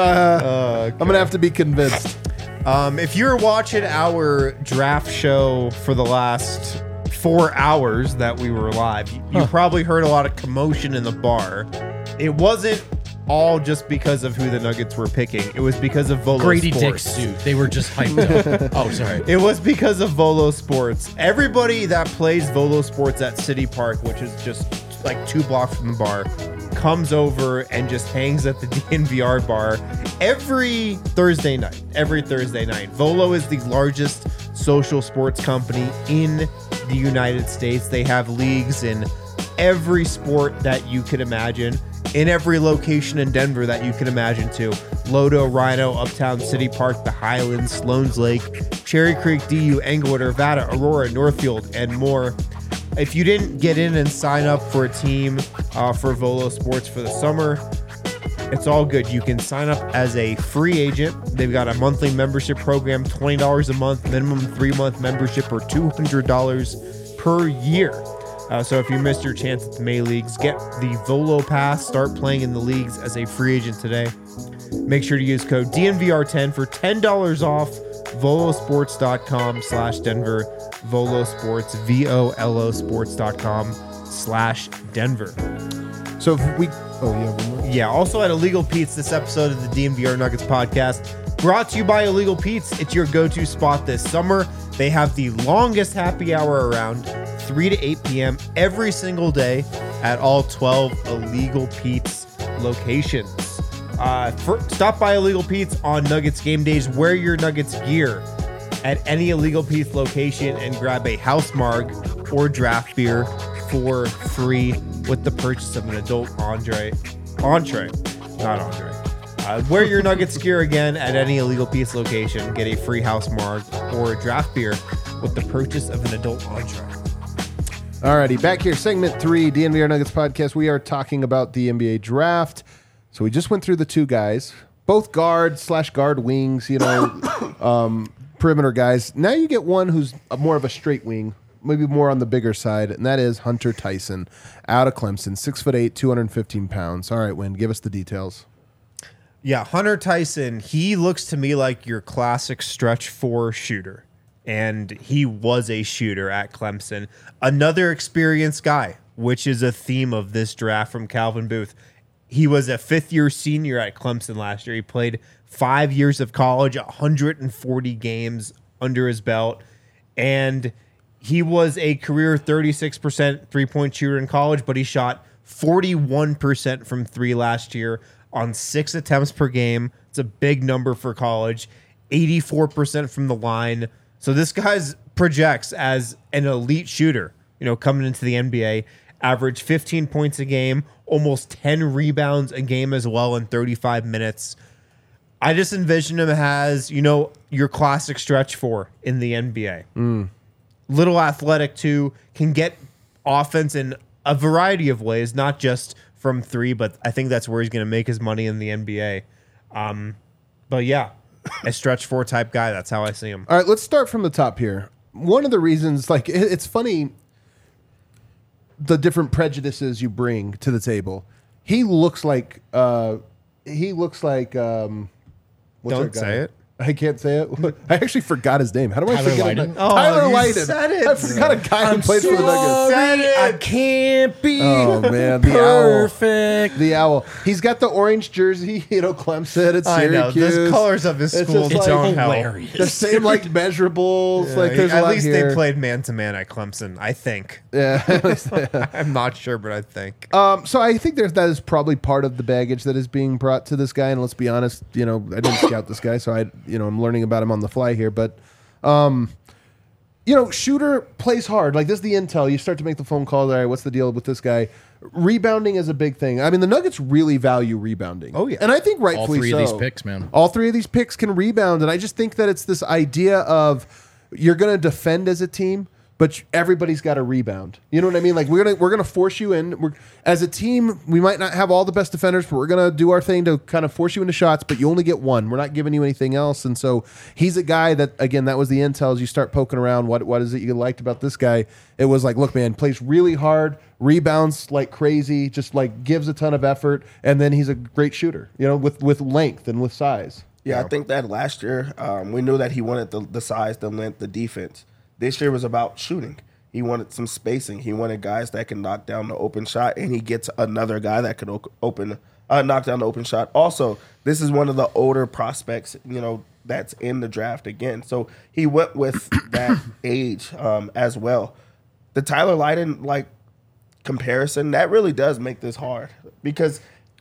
Uh, I'm gonna have to be convinced. Um, if you're watching our draft show for the last four hours that we were live, you, you probably heard a lot of commotion in the bar. It wasn't all just because of who the Nuggets were picking. It was because of Volo Grady Dick Sports. suit. They were just hyped up. Oh, sorry. It was because of Volo Sports. Everybody that plays Volo Sports at City Park, which is just like two blocks from the bar, comes over and just hangs at the D N V R bar every Thursday night. Every Thursday night. Volo is the largest social sports company in the United States. They have leagues in every sport that you could imagine, in every location in Denver that you can imagine too. Lodo, Rhino, Uptown, City Park, the Highlands, Sloan's Lake, Cherry Creek, D U, Englewood, Arvada, Aurora, Northfield, and more. If you didn't get in and sign up for a team uh, for Volo Sports for the summer, it's all good. You can sign up as a free agent. They've got a monthly membership program, twenty dollars a month, minimum three-month membership, or two hundred dollars per year. Uh, so if you missed your chance at the May Leagues, get the Volo Pass. Start playing in the leagues as a free agent today. Make sure to use code D N V R ten for ten dollars off. Volosports.com slash Denver. Volo Sports, V O L O Sports.com slash Denver. So if we. Oh yeah. One more. Yeah, also at Illegal Pete's, this episode of the D N V R Nuggets podcast, brought to you by Illegal Pete's. It's your go-to spot this summer. They have the longest happy hour around, three to eight p.m. every single day at all twelve Illegal Pete's locations. Uh, for, stop by Illegal Pete's on Nuggets game days. Wear your Nuggets gear at any Illegal Pete's location and grab a house marg or draft beer for free with the purchase of an adult entree. Entree, not entree. Uh, wear your Nuggets gear again at any Illegal Pete's location. Get a free house marg or a draft beer with the purchase of an adult entree. Alrighty, back here, segment three, D N V R Nuggets podcast. We are talking about the N B A draft. So we just went through the two guys, both guard slash guard wings, you know, um, perimeter guys. Now you get one who's a more of a straight wing, maybe more on the bigger side, and that is Hunter Tyson out of Clemson, six foot eight, two hundred fifteen pounds. All right, Wynn, give us the details. Yeah, Hunter Tyson, he looks to me like your classic stretch four shooter. And he was a shooter at Clemson. Another experienced guy, which is a theme of this draft from Calvin Booth. He was a fifth-year senior at Clemson last year. He played five years of college, one hundred forty games under his belt. And he was a career thirty-six percent three-point shooter in college, but he shot forty-one percent from three last year on six attempts per game. It's a big number for college. eighty-four percent from the line. So this guy's projects as an elite shooter, you know, coming into the N B A, average fifteen points a game, almost ten rebounds a game as well in thirty-five minutes. I just envision him as, you know, your classic stretch four in the N B A. Mm. Little athletic too, can get offense in a variety of ways, not just from three, but I think that's where he's going to make his money in the N B A. Um, but yeah, a stretch four type guy. That's how I see him. All right, let's start from the top here. One of the reasons, like, it, it's funny, the different prejudices you bring to the table. He looks like, uh, he looks like, um, what's Don't our guy? say it. I can't say it. I actually forgot his name. How do I Tyler forget Lydon? him? Oh, Tyler you Lydon. said it. I forgot a guy who played for the Nuggets. Sorry, I can't be Oh man, the owl. perfect. The owl. He's got the orange jersey, you know, Clemson at I know. Syracuse. The colors of his It's school just like don't help. hilarious. The same like measurables. Yeah, like there's a at lot least here. they played man to man at Clemson, I think. Yeah. I'm not sure, but I think. Um, so I think there's that is probably part of the baggage that is being brought to this guy. And let's be honest, you know, I didn't scout this guy, so I, you know, I'm learning about him on the fly here. But, um, you know, shooter plays hard. Like this is the intel. You start to make the phone call. All right, what's the deal with this guy? Rebounding is a big thing. I mean, the Nuggets really value rebounding. Oh, yeah. and I think All rightfully three so. of these picks, man. All three of these picks can rebound, and I just think that it's this idea of you're going to defend as a team, but everybody's got to rebound. You know what I mean? Like we're gonna we're gonna force you in. We're, as a team, we might not have all the best defenders, but we're gonna do our thing to kind of force you into shots. But you only get one. We're not giving you anything else. And so he's a guy that, again, that was the intel. As you start poking around, what what is it you liked about this guy? It was like, look, man, plays really hard, rebounds like crazy, just like gives a ton of effort, and then he's a great shooter. You know, with with length and with size. Yeah, I think that last year um, we knew that he wanted the, the size, the length, the defense. This year was about shooting. He wanted some spacing. He wanted guys that can knock down the open shot, and he gets another guy that can o- open, uh, knock down the open shot. Also, this is one of the older prospects, you know, that's in the draft again. So he went with that age um, as well. The Tyler Lydon like comparison that really does make this hard because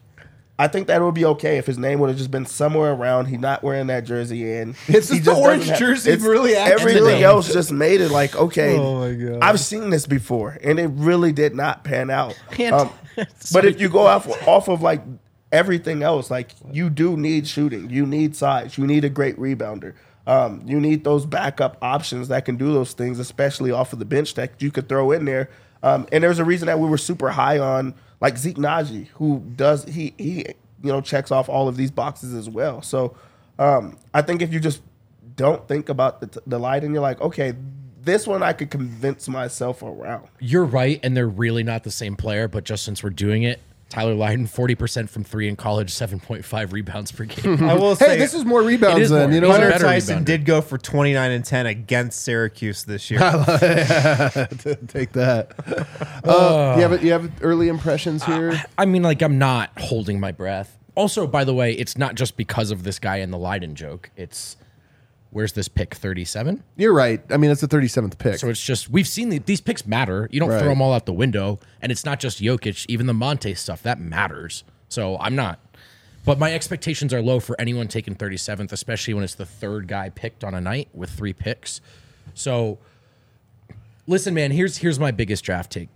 I think that would be okay if his name would have just been somewhere around. He's not wearing that jersey, and It's he just the orange doesn't jersey it's- really acts everything the name. else just made it like okay. Oh my God. I've seen this before, and it really did not pan out. Can't- Um, but if you go off off of like everything else, like you do need shooting, you need size, you need a great rebounder. Um, you need those backup options that can do those things, especially off of the bench that you could throw in there. Um, and there's a reason that we were super high on like Zeke Naji, who does he he you know checks off all of these boxes as well. So um, I think if you just don't think about the, the light and you're like, okay, this one I could convince myself around. You're right, and they're really not the same player, but just since we're doing it, Tyler Lydon, forty percent from three in college, seven point five rebounds per game. I will Hey, say this is more rebounds It is than more. you know. He's a what? Hunter better Tyson rebounder. did go for twenty-nine and ten against Syracuse this year. Take that. Uh, you have you have early impressions here. I mean, like, I'm not holding my breath. Also, by the way, it's not just because of this guy and the Lydon joke. It's, where's this pick, thirty-seven? You're right. I mean, it's the thirty-seventh pick. So it's just, we've seen the, these picks matter. You don't Right. throw them all out the window. And it's not just Jokic, even the Monte stuff, that matters. So I'm not. But my expectations are low for anyone taking thirty-seventh, especially when it's the third guy picked on a night with three picks. So listen, man, here's here's my biggest draft take.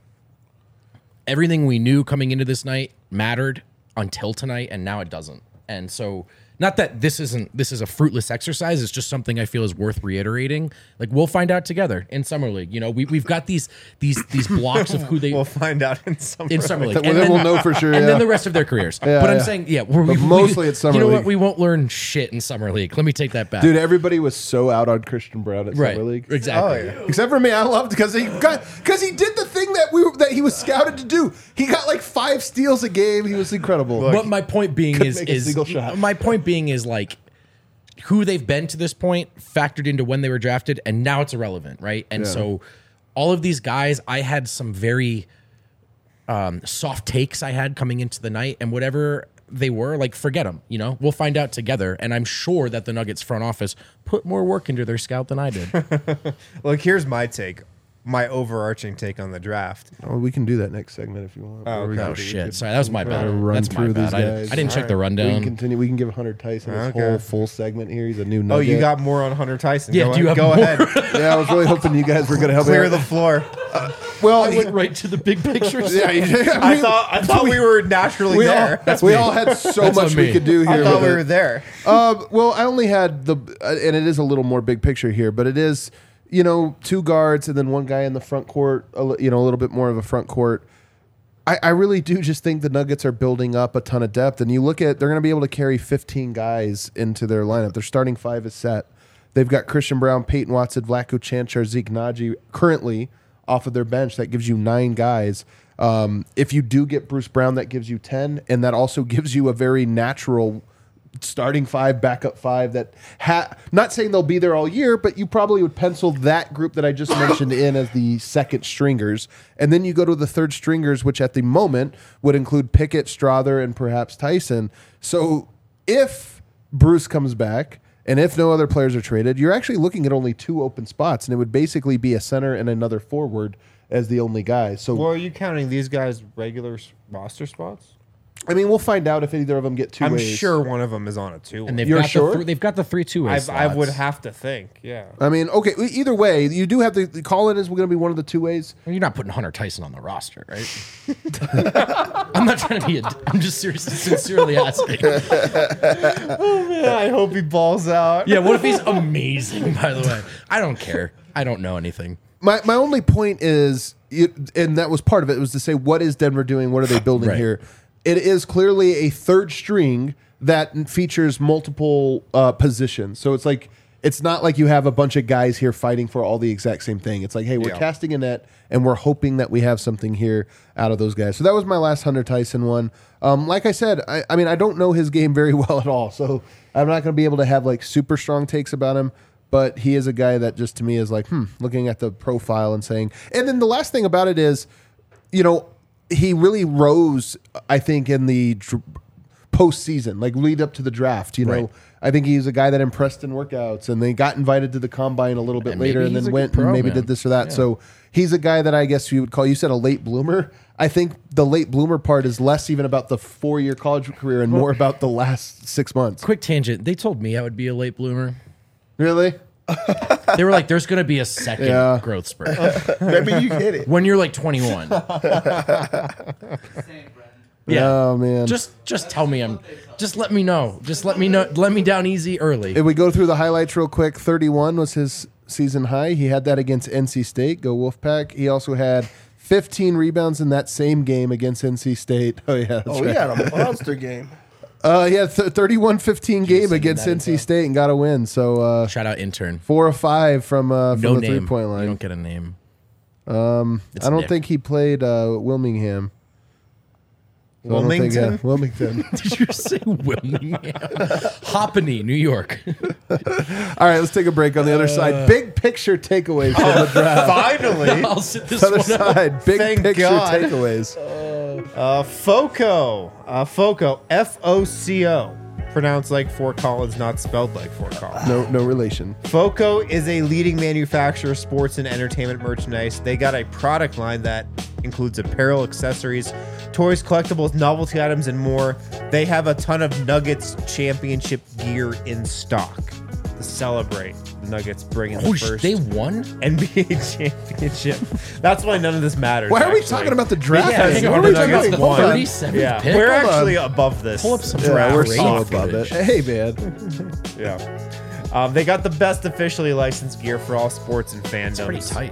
Everything we knew coming into this night mattered until tonight, and now it doesn't. And so not that this isn't this is a fruitless exercise. It's just something I feel is worth reiterating. Like we'll find out together in summer league. You know, we we've got these these these blocks of who they We'll find out in summer. in summer league, Well, then we'll know for sure. and yeah. then the rest of their careers. Yeah, but I'm yeah. saying, yeah, we're, But we, mostly we, it's summer You know league. what? We won't learn shit in summer league. Let me take that back. Dude, everybody was so out on Christian Brown at right? summer league. Exactly. Oh, yeah. Except for me, I loved because he got because he did the thing that we were, that he was scouted to do. He got like five steals a game. He was incredible. But my point being Couldn't is make a is single shot. my point being is like who they've been to this point factored into when they were drafted, and now it's irrelevant, right? And Yeah. so all of these guys, I had some very um, soft takes I had coming into the night, and whatever they were, like forget them. You know, we'll find out together, and I'm sure that the Nuggets front office put more work into their scout than I did. Look, here's my take, my overarching take on the draft. Oh, we can do that next segment if you want. Oh, Or we okay. can- Oh shit! Sorry, that was my try bad. to run That's my through bad. these I, guys. I didn't check the We can rundown. continue. We can give Hunter Tyson his Okay. whole full segment here. He's a new Oh, nugget. you got more on Hunter Tyson. Yeah, go, do you have go more? ahead. Yeah, I was really hoping you guys were going to help Clear me the out. floor. Well, I he- went right to the big picture. yeah, yeah, I we- thought I thought we were naturally we there. all, we all had so That's much on we me. could do here. I thought with we it. were there. Uh, well, I only had the, uh, and it is a little more big picture here, but it is, you know, two guards and then one guy in the front court, a li- you know, a little bit more of a front court. I, I really do just think the Nuggets are building up a ton of depth. And you look at, they're going to be able to carry fifteen guys into their lineup. Their starting five is set. They've got Christian Brown, Peyton Watson, Vlatko Cancar, Zeke Naji currently off of their bench. That gives you nine guys. Um, if you do get Bruce Brown, that gives you ten. And that also gives you a very natural starting five, backup five that ha- not saying they'll be there all year, but you probably would pencil that group that I just mentioned in as the second stringers. And then you go to the third stringers, which at the moment would include Pickett, Strother, and perhaps Tyson. So if Bruce comes back and if no other players are traded, you're actually looking at only two open spots, and it would basically be a center and another forward as the only guys. So Well, are you counting these guys regular s- roster spots? I mean, we'll find out if either of them get two I'm ways. sure one of them is on a two. And they've You're got sure? the th- they've got the three two way I, I would have to think. Yeah. I mean, okay. e- Either way, you do have the, the call-in is going to be one of the two ways. You're not putting Hunter Tyson on the roster, right? I'm not trying to be. A, I'm just seriously, sincerely asking. Yeah, I hope he balls out. Yeah. What if he's amazing? By the way, I don't care. I don't know anything. My my only point is, it, and that was part of it, was to say, what is Denver doing? What are they building Right. here? It is clearly a third string that features multiple uh, positions. So it's like it's not like you have a bunch of guys here fighting for all the exact same thing. It's like, hey, we're Yeah. casting a net, and we're hoping that we have something here out of those guys. So that was my last Hunter Tyson one. Um, like I said, I, I mean, I don't know his game very well at all, so I'm not going to be able to have like super strong takes about him. But he is a guy that just to me is like, hmm, looking at the profile and saying. And then the last thing about it is, you know, he really rose, I think, in the dr- postseason, like lead up to the draft. You know, Right. I think he's a guy that impressed in workouts, and they got invited to the combine a little bit And later, maybe and he's then a went good and pro, maybe man. did this or that. Yeah. So he's a guy that I guess you would call. You said a late bloomer. I think the late bloomer part is less even about the four year college career and more about the last six months. Quick tangent. They told me I would be a late bloomer. Really? They were like, "There's going to be a second Yeah. growth spurt Maybe you hit it. when you're like twenty-one." Yeah. Oh man. Just just tell me I'm. Just let me know. Just let me know. Let me down easy early. If we go through the highlights real quick, thirty-one was his season high. He had that against N C State. Go Wolfpack. He also had fifteen rebounds in that same game against N C State. Oh, yeah. That's Oh, right. he had a monster game. Uh, he had th- thirty-one fifteen game against that N C info. State and got a win. So uh, Shout out intern. four or five from, uh, from No the name. three-point You line. don't get a name. Um, It's I don't Nick. think he played uh, Wilmingham. So I don't think, Wilmington? uh, Wilmington. Did you say Wilmingham? Hoppany, New York. All right, let's take a break on the other Uh, side. Big picture takeaways from oh, the draft. Finally, I'll sit this Other one out. side, big Thank picture God. takeaways. uh, FOCO, uh, FOCO, F O C O, pronounced like Fort Collins, not spelled like Fort Collins. No, no relation. FOCO is a leading manufacturer of sports and entertainment merchandise. They got a product line that includes apparel, accessories, toys, collectibles, novelty items, and more. They have a ton of Nuggets championship gear in stock. to celebrate the Nuggets bringing Oh, the sh- first they won? N B A championship. That's why none of this matters. Why are we actually. talking about the draft? Yeah, What hang are on, we the talking Nuggets about? won. Hold on. thirty-seventh Yeah, pick? we're Hold on. actually above this. Pull up some Yeah, draft we're rating so above it. footage. Hey, man. Yeah. Um, they got the best officially licensed gear for all sports and fandoms. Pretty tight.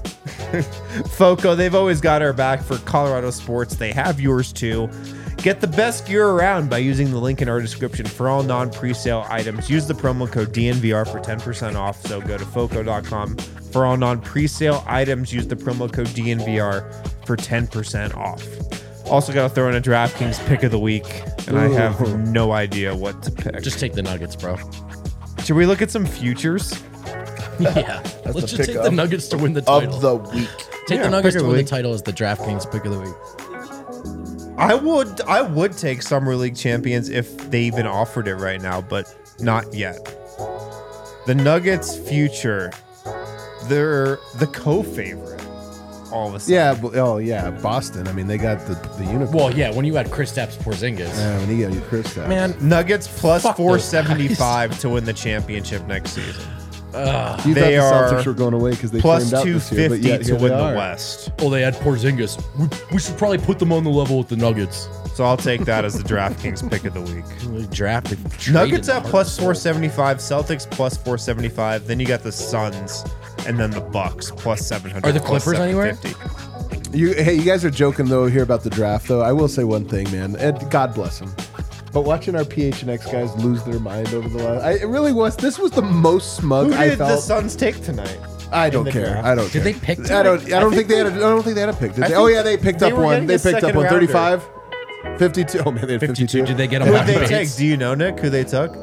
Foco, they've always got our back for Colorado sports. They have yours too. Get the best gear around by using the link in our description for all non-presale items. Use the promo code D N V R for ten percent off. So go to foco dot com for all non-presale items. Use the promo code D N V R for ten percent off. Also got to throw in a DraftKings pick of the week, and I have Ooh. no idea what to pick. Just take the Nuggets, bro. Should we look at some futures? Yeah. Let's the just pick take of- the Nuggets to win the title. Of the week. take Yeah, the Nuggets pick to of win the the title as the DraftKings pick of the week. I would I would take Summer League champions if they even offered it right now, but not yet. The Nuggets' future, they're the co-favorite. All of a sudden. Yeah. but- Oh, yeah. Boston. I mean, they got the the unicorn. Well, yeah, when you had Kristaps Porzingis. Yeah, when you got your Chris Stapps. Man, Nuggets plus Fuck those four seventy-five to win the championship next season. you they thought the are Celtics were going away because they Plus flamed out two this year, but fifty yet to here win they the are. West. oh, they had Porzingis. We, we should probably put them on the level with the Nuggets. So I'll take that as the DraftKings pick of the week. We drafted. Nuggets traded at the plus Harden. four seventy-five, Celtics plus four seventy-five. Then you got the Suns, and then the Bucks plus seven hundred. Are the plus Clippers anywhere? seven fifty. You, hey, you guys are joking though here about the draft though. I will say one thing, man. Ed, God bless him. But watching our P H N X guys lose their mind over the last, I, it really was. This was the most smug Who I did the felt. Suns take tonight? I don't the care. draft? I don't. Did care. they pick I don't. tonight? I don't I think, think they had. A, they- I don't think they had a pick. Did I they? think Oh yeah, they picked they up were one. getting They a picked up second one. rounder. thirty-five, fifty-two. Oh man, they had fifty-two. fifty-two. Did they get a Who bunch did of they take? picks? Do you know, Nick? Who they took?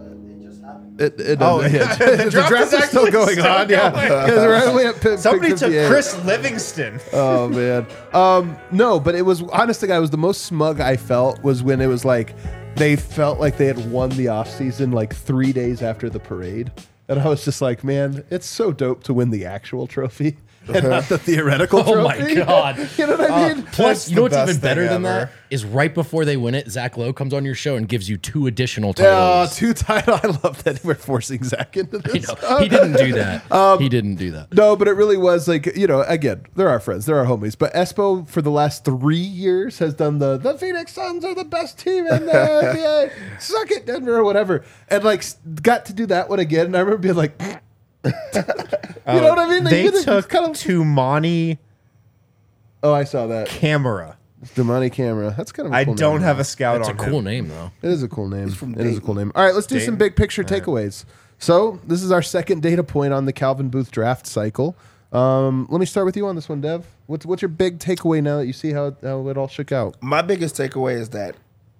It, it Oh, doesn't- yeah. the the draft draft is is still actually going still on. Yeah, going. because we're only at pick, Somebody pick took fifty-eight. Chris Livingston. Oh man. Um, no, but it was honest to God, it was the most smug I felt was when it was like they felt like they had won the offseason like three days after the parade. And I was just like, man, it's so dope to win the actual trophy and not the theoretical Oh trophy. my God. You know what I mean? Plus, That's you know the what's even best better thing than ever. that is right before they win it, Zach Lowe comes on your show and gives you two additional Oh, titles. two title. I love that we're forcing Zach into You this. know, he didn't do that. Um, he didn't do that. No, but it really was like, you know, again, they're our friends, they're our homies. But Espo for the last three years has done the the Phoenix Suns are the best team in the N B A. Suck it, Denver, or whatever. And like s- got to do that one again. And I remember being like, you know what I mean? They did it took kind of. Tumani Oh, I saw that. Camera. Damani Camera. That's kind of. A I cool don't name, have though. a scout That's a on cool him. name, though. It is a cool name. from It is a Dayton. cool name. All right, let's do Dayton? some big picture takeaways. So this is our second data point on the Calvin Booth draft cycle. Um, let me start with you on this one, Dev. What's what's your big takeaway now that you see how how it all shook out? My biggest takeaway is that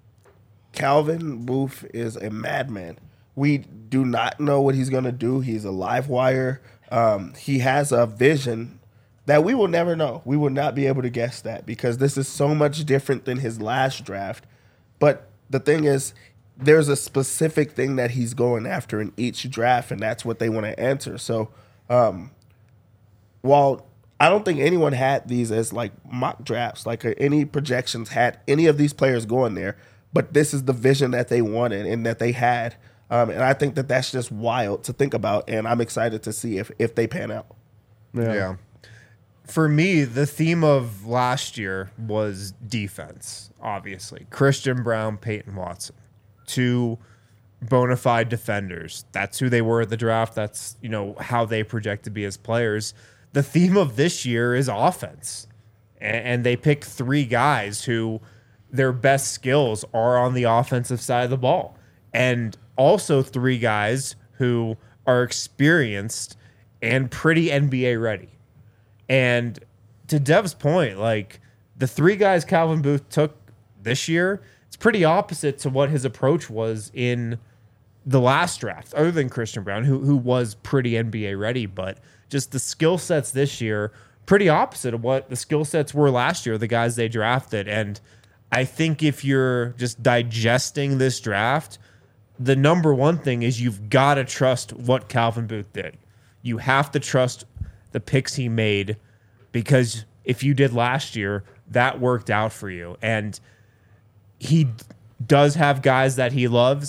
Calvin Booth is a madman. We do not know what he's going to do. He's a live wire. Um, he has a vision that we will never know. We will not be able to guess that because this is so much different than his last draft. But the thing is, there's a specific thing that he's going after in each draft, and that's what they want to answer. So, um, while I don't think anyone had these as like mock drafts, like uh, any projections had any of these players going there, but this is the vision that they wanted and that they had. Um, and I think that that's just wild to think about, and I'm excited to see if, if they pan out. Yeah. For me, the theme of last year was defense, obviously. Christian Brown, Peyton Watson. Two bona fide defenders. That's who they were at the draft. That's, you know, how they project to be as players. The theme of this year is offense. And, and they pick three guys who their best skills are on the offensive side of the ball. And also three guys who are experienced and pretty N B A ready. And to Dev's point, like the three guys Calvin Booth took this year, it's pretty opposite to what his approach was in the last draft, other than Christian Brown, who who was pretty N B A ready, but just the skill sets this year, pretty opposite of what the skill sets were last year, the guys they drafted. And I think if you're just digesting this draft, the number one thing is you've got to trust what Calvin Booth did. You have to trust the picks he made, because if you did last year, that worked out for you. And he does have guys that he loves.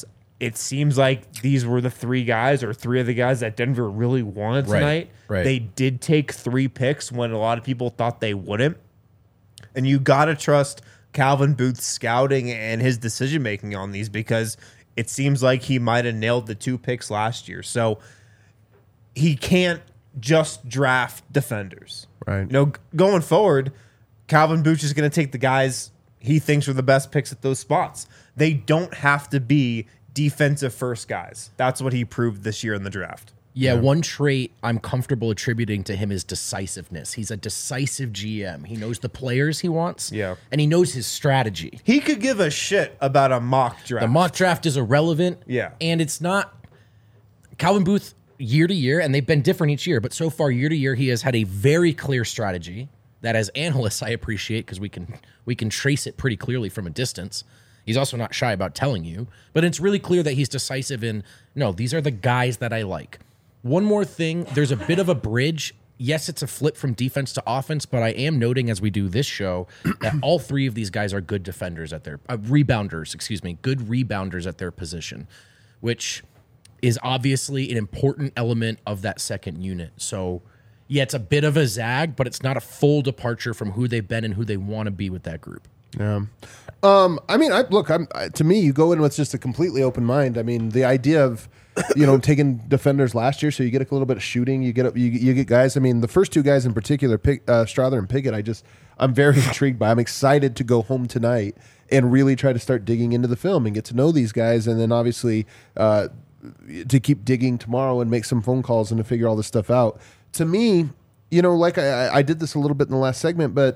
it seems like these were the three guys or three of the guys that Denver really wanted Right, tonight. right. They did take three picks when a lot of people thought they wouldn't. And you got to trust Calvin Booth's scouting and his decision making on these, because it seems like he might have nailed the two picks last year. So he can't just draft defenders. Right. You know, g- going forward, Calvin Booth is going to take the guys he thinks are the best picks at those spots. They don't have to be defensive first guys. That's what he proved this year in the draft. Yeah, one trait I'm comfortable attributing to him is decisiveness. He's a decisive G M. He knows the players he wants. Yeah. And he knows his strategy. He could give a shit about a mock draft. The mock draft is irrelevant. Yeah. And it's not Calvin Booth year to year, and they've been different each year, but so far year to year, he has had a very clear strategy that as analysts I appreciate, because we can we can trace it pretty clearly from a distance. He's also not shy about telling you, but it's really clear that he's decisive in, no, these are the guys that I like. One more thing, there's a bit of a bridge. Yes, it's a flip from defense to offense, but I am noting as we do this show that all three of these guys are good defenders at their uh, rebounders, excuse me, good rebounders at their position, which is obviously an important element of that second unit. So, yeah, it's a bit of a zag, but it's not a full departure from who they've been and who they want to be with that group. Yeah. Um, I mean, I look, I'm I, to me, you go in with just a completely open mind. I mean, the idea of, you know, taking defenders last year, so you get a little bit of shooting, you get you, you get guys. I mean, the first two guys in particular, Pig, uh, Strother and Pickett, I just I'm very intrigued by. I'm excited to go home tonight and really try to start digging into the film and get to know these guys, and then obviously uh, to keep digging tomorrow and make some phone calls and to figure all this stuff out. To me, you know, like I, I did this a little bit in the last segment, but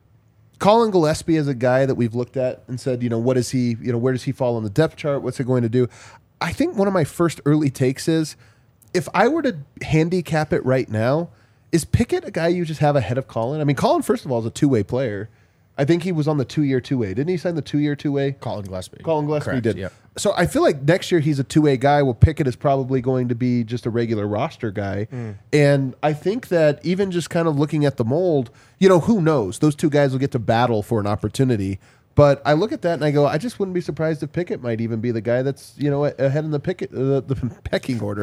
Colin Gillespie is a guy that we've looked at and said, you know, what is he, you know, where does he fall on the depth chart? What's it going to do? I think one of my first early takes is, if I were to handicap it right now, is Pickett a guy you just have ahead of Colin? I mean, Colin, first of all, is a two-way player. I think he was on the two-year two-way. Didn't he sign the two-year two-way? Colin Gillespie. Colin Gillespie Correct, did. yeah. So I feel like next year he's a two-way guy. Well, Pickett is probably going to be just a regular roster guy. Mm. And I think that even just kind of looking at the mold, you know, who knows? Those two guys will get to battle for an opportunity. But I look at that and I go, I just wouldn't be surprised if Pickett might even be the guy that's, you know, ahead in the Pickett, uh, the pecking order.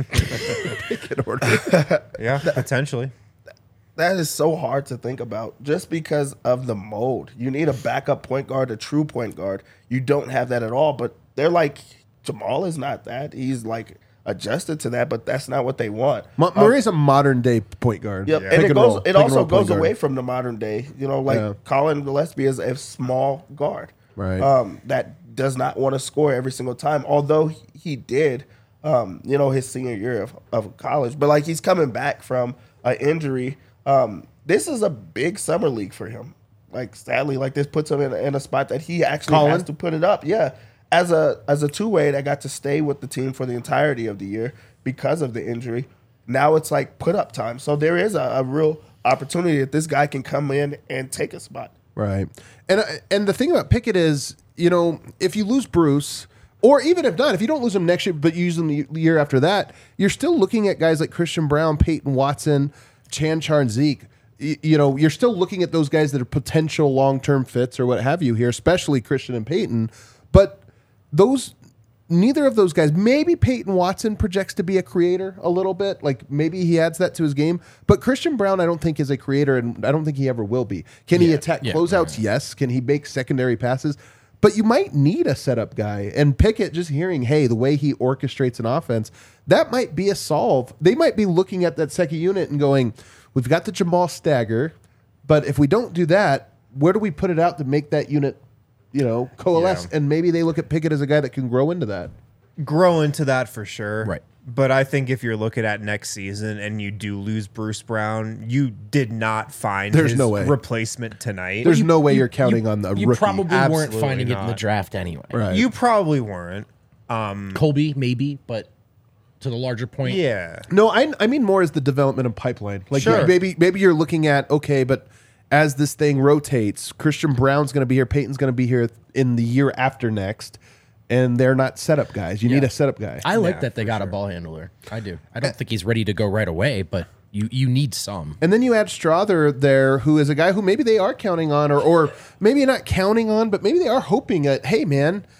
Pickett order. Yeah, potentially. That is so hard to think about just because of the mold. You need a backup point guard, a true point guard. You don't have that at all. But they're like, Jamal is not that. He's like adjusted to that, but that's not what they want. M- Murray's um, a modern day point guard. Yep. Yeah. And Pick it and goes. roll. It Pick and also roll goes point guard. away from the modern day. You know, like Yeah. Colin Gillespie is a small guard, Right. Um, that does not want to score every single time. Although he, he did, um, you know, his senior year of, of college. But like he's coming back from an injury. Um, this is a big summer league for him. Like sadly, like this puts him in, in a spot that he actually Colin? has to put it up. Yeah, as a as a two way that got to stay with the team for the entirety of the year because of the injury. Now it's like put up time. So there is a, a real opportunity that this guy can come in and take a spot. Right. And and the thing about Pickett is, you know, if you lose Bruce, or even if not, if you don't lose him next year, but you use him the year after that, you're still looking at guys like Christian Brown, Peyton Watson, Chanchar, and Zeke. You, you know, you're still looking at those guys that are potential long-term fits or what have you here, especially Christian and Peyton. But those, neither of those guys, maybe Peyton Watson projects to be a creator a little bit. Like maybe he adds that to his game. But Christian Brown, I don't think is a creator, and I don't think he ever will be. Can he Yeah, attack yeah, closeouts? right. Yes. Can he make secondary passes? But you might need a setup guy. And Pickett, just hearing, hey, the way he orchestrates an offense, that might be a solve. They might be looking at that second unit and going, we've got the Jamal stagger, but if we don't do that, where do we put it out to make that unit, you know, coalesce? Yeah. And maybe they look at Pickett as a guy that can grow into that. Grow into that for sure. Right. But I think if you're looking at next season and you do lose Bruce Brown, you did not find There's his no way. replacement tonight. There's you, no way you're counting on the You rookie. probably weren't Absolutely finding it in the not. draft anyway. Right. you probably weren't. Um, Colby, maybe, but to the larger point, yeah. No, I I mean more as the development of pipeline. Like Sure. maybe maybe you're looking at, okay, but as this thing rotates, Christian Brown's going to be here, Peyton's going to be here in the year after next, and they're not setup guys. You need Yeah. a setup guy. I like Yeah, that they for got a sure. ball handler. I do. I don't think he's ready to go right away, but you you need some. And then you add Strother there, who is a guy who maybe they are counting on, or or maybe not counting on, but maybe they are hoping that, hey, man,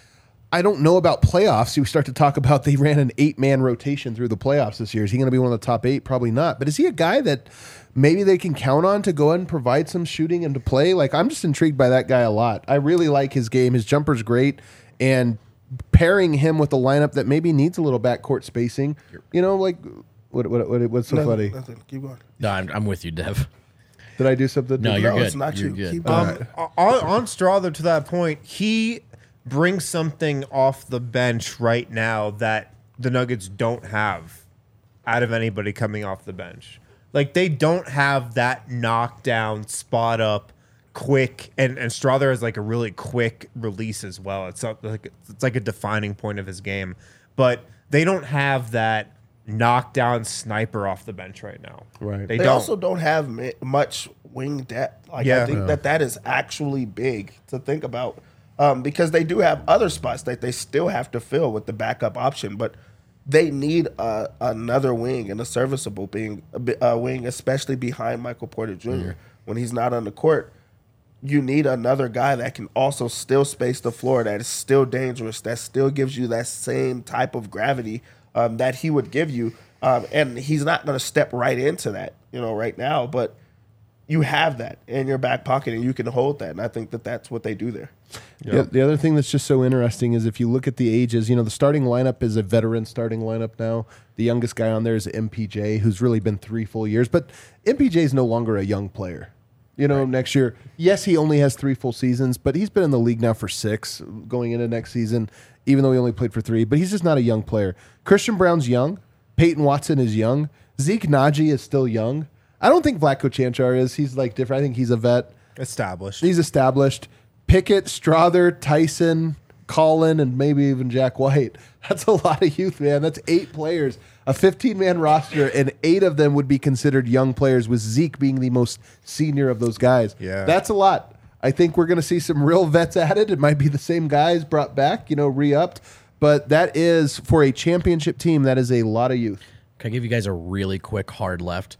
I don't know about playoffs. We start to talk about they ran an eight-man rotation through the playoffs this year. Is he going to be one of the top eight? Probably not. But is he a guy that maybe they can count on to go ahead and provide some shooting and to play? Like, I'm just intrigued by that guy a lot. I really like his game. His jumper's great. And pairing him with a lineup that maybe needs a little backcourt spacing, you know, like, what, what, what what's so Nothing, funny? nothing. Keep going. No, I'm, I'm with you, Dev. Did I do something? No, you're No, good. it's not you're you. good. Keep Um, going. on, on Strother, to that point, he brings something off the bench right now that the Nuggets don't have out of anybody coming off the bench. Like, they don't have that knockdown, spot up, quick, and, and Strother has like a really quick release as well. It's not like it's like a defining point of his game, but they don't have that knockdown sniper off the bench right now. Right. They, They don't. also don't have mi- much wing depth. Like Yeah. I think Yeah. that that is actually big to think about, um, because they do have other spots that they still have to fill with the backup option, but they need uh, another wing and a serviceable being a bi- uh, wing, especially behind Michael Porter Junior When he's not on the court, you need another guy that can also still space the floor, that is still dangerous, that still gives you that same type of gravity um, that he would give you. Um, and he's not going to step right into that, you know, right now, but you have that in your back pocket and you can hold that. And I think that that's what they do there. Yeah, the other thing that's just so interesting is if you look at the ages, you know, the starting lineup is a veteran starting lineup now. The youngest guy on there is M P J, who's really been three full years. But M P J is no longer a young player. You know, next year, yes, he only has three full seasons, but he's been in the league now for six going into next season, even though he only played for three. But he's just not a young player. Christian Brown's young. Peyton Watson is young. Zeke Naji is still young. I don't think Vlatko Chanchar is. He's like different. I think he's a vet. Established. He's established. Pickett, Strother, Tyson, Colin, and maybe even Jack White. That's a lot of youth, man. That's eight players. A fifteen-man roster, and eight of them would be considered young players, with Zeke being the most senior of those guys. Yeah. That's a lot. I think we're going to see some real vets added. It might be the same guys brought back, you know, re-upped. But that is, for a championship team, that is a lot of youth. Can I give you guys a really quick hard left?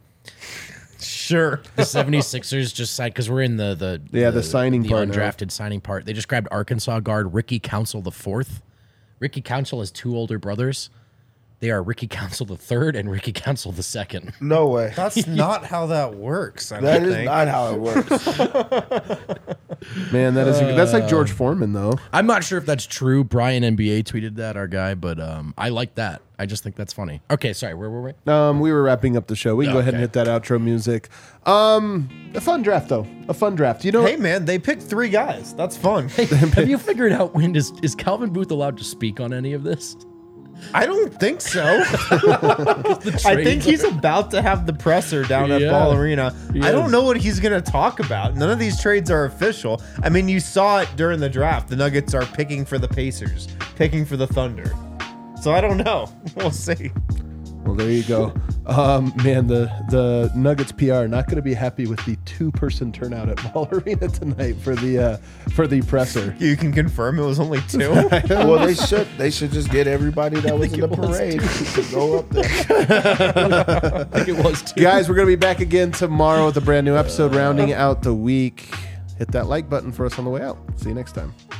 Sure. The 76ers just signed, because we're in the the Yeah, the signing the part now. undrafted signing part. They just grabbed Arkansas guard Ricky Council the fourth. Ricky Council has two older brothers. They are Ricky Council the third and Ricky Council the second. No way. That's not how that works. I That don't is think. not how it works. Man, that is that's like George Foreman, though. I'm not sure if that's true. Brian N B A tweeted that, our guy, but um, I like that. I just think that's funny. Okay, sorry, where were we? Um, we were wrapping up the show. We can go ahead and Okay. hit that outro music. Um, a fun draft, though. A fun draft. You know, Hey man, they picked three guys. That's fun. Have you figured out when is is Calvin Booth allowed to speak on any of this? I don't think so. I think he's about to have the presser down at Yeah. Ball Arena. He I don't is. know what he's going to talk about. None of these trades are official. I mean, you saw it during the draft. The Nuggets are picking for the Pacers, picking for the Thunder. So I don't know. We'll see. well, there you go. Um, man, the the Nuggets P R not going to be happy with the two-person turnout at Ball Arena tonight for the uh, for the presser. You can confirm it was only two. Well, they should. They should just get everybody that was in the it was parade to go up there. I think it was too. Guys, we're going to be back again tomorrow with a brand new episode rounding out the week. Hit that like button for us on the way out. See you next time.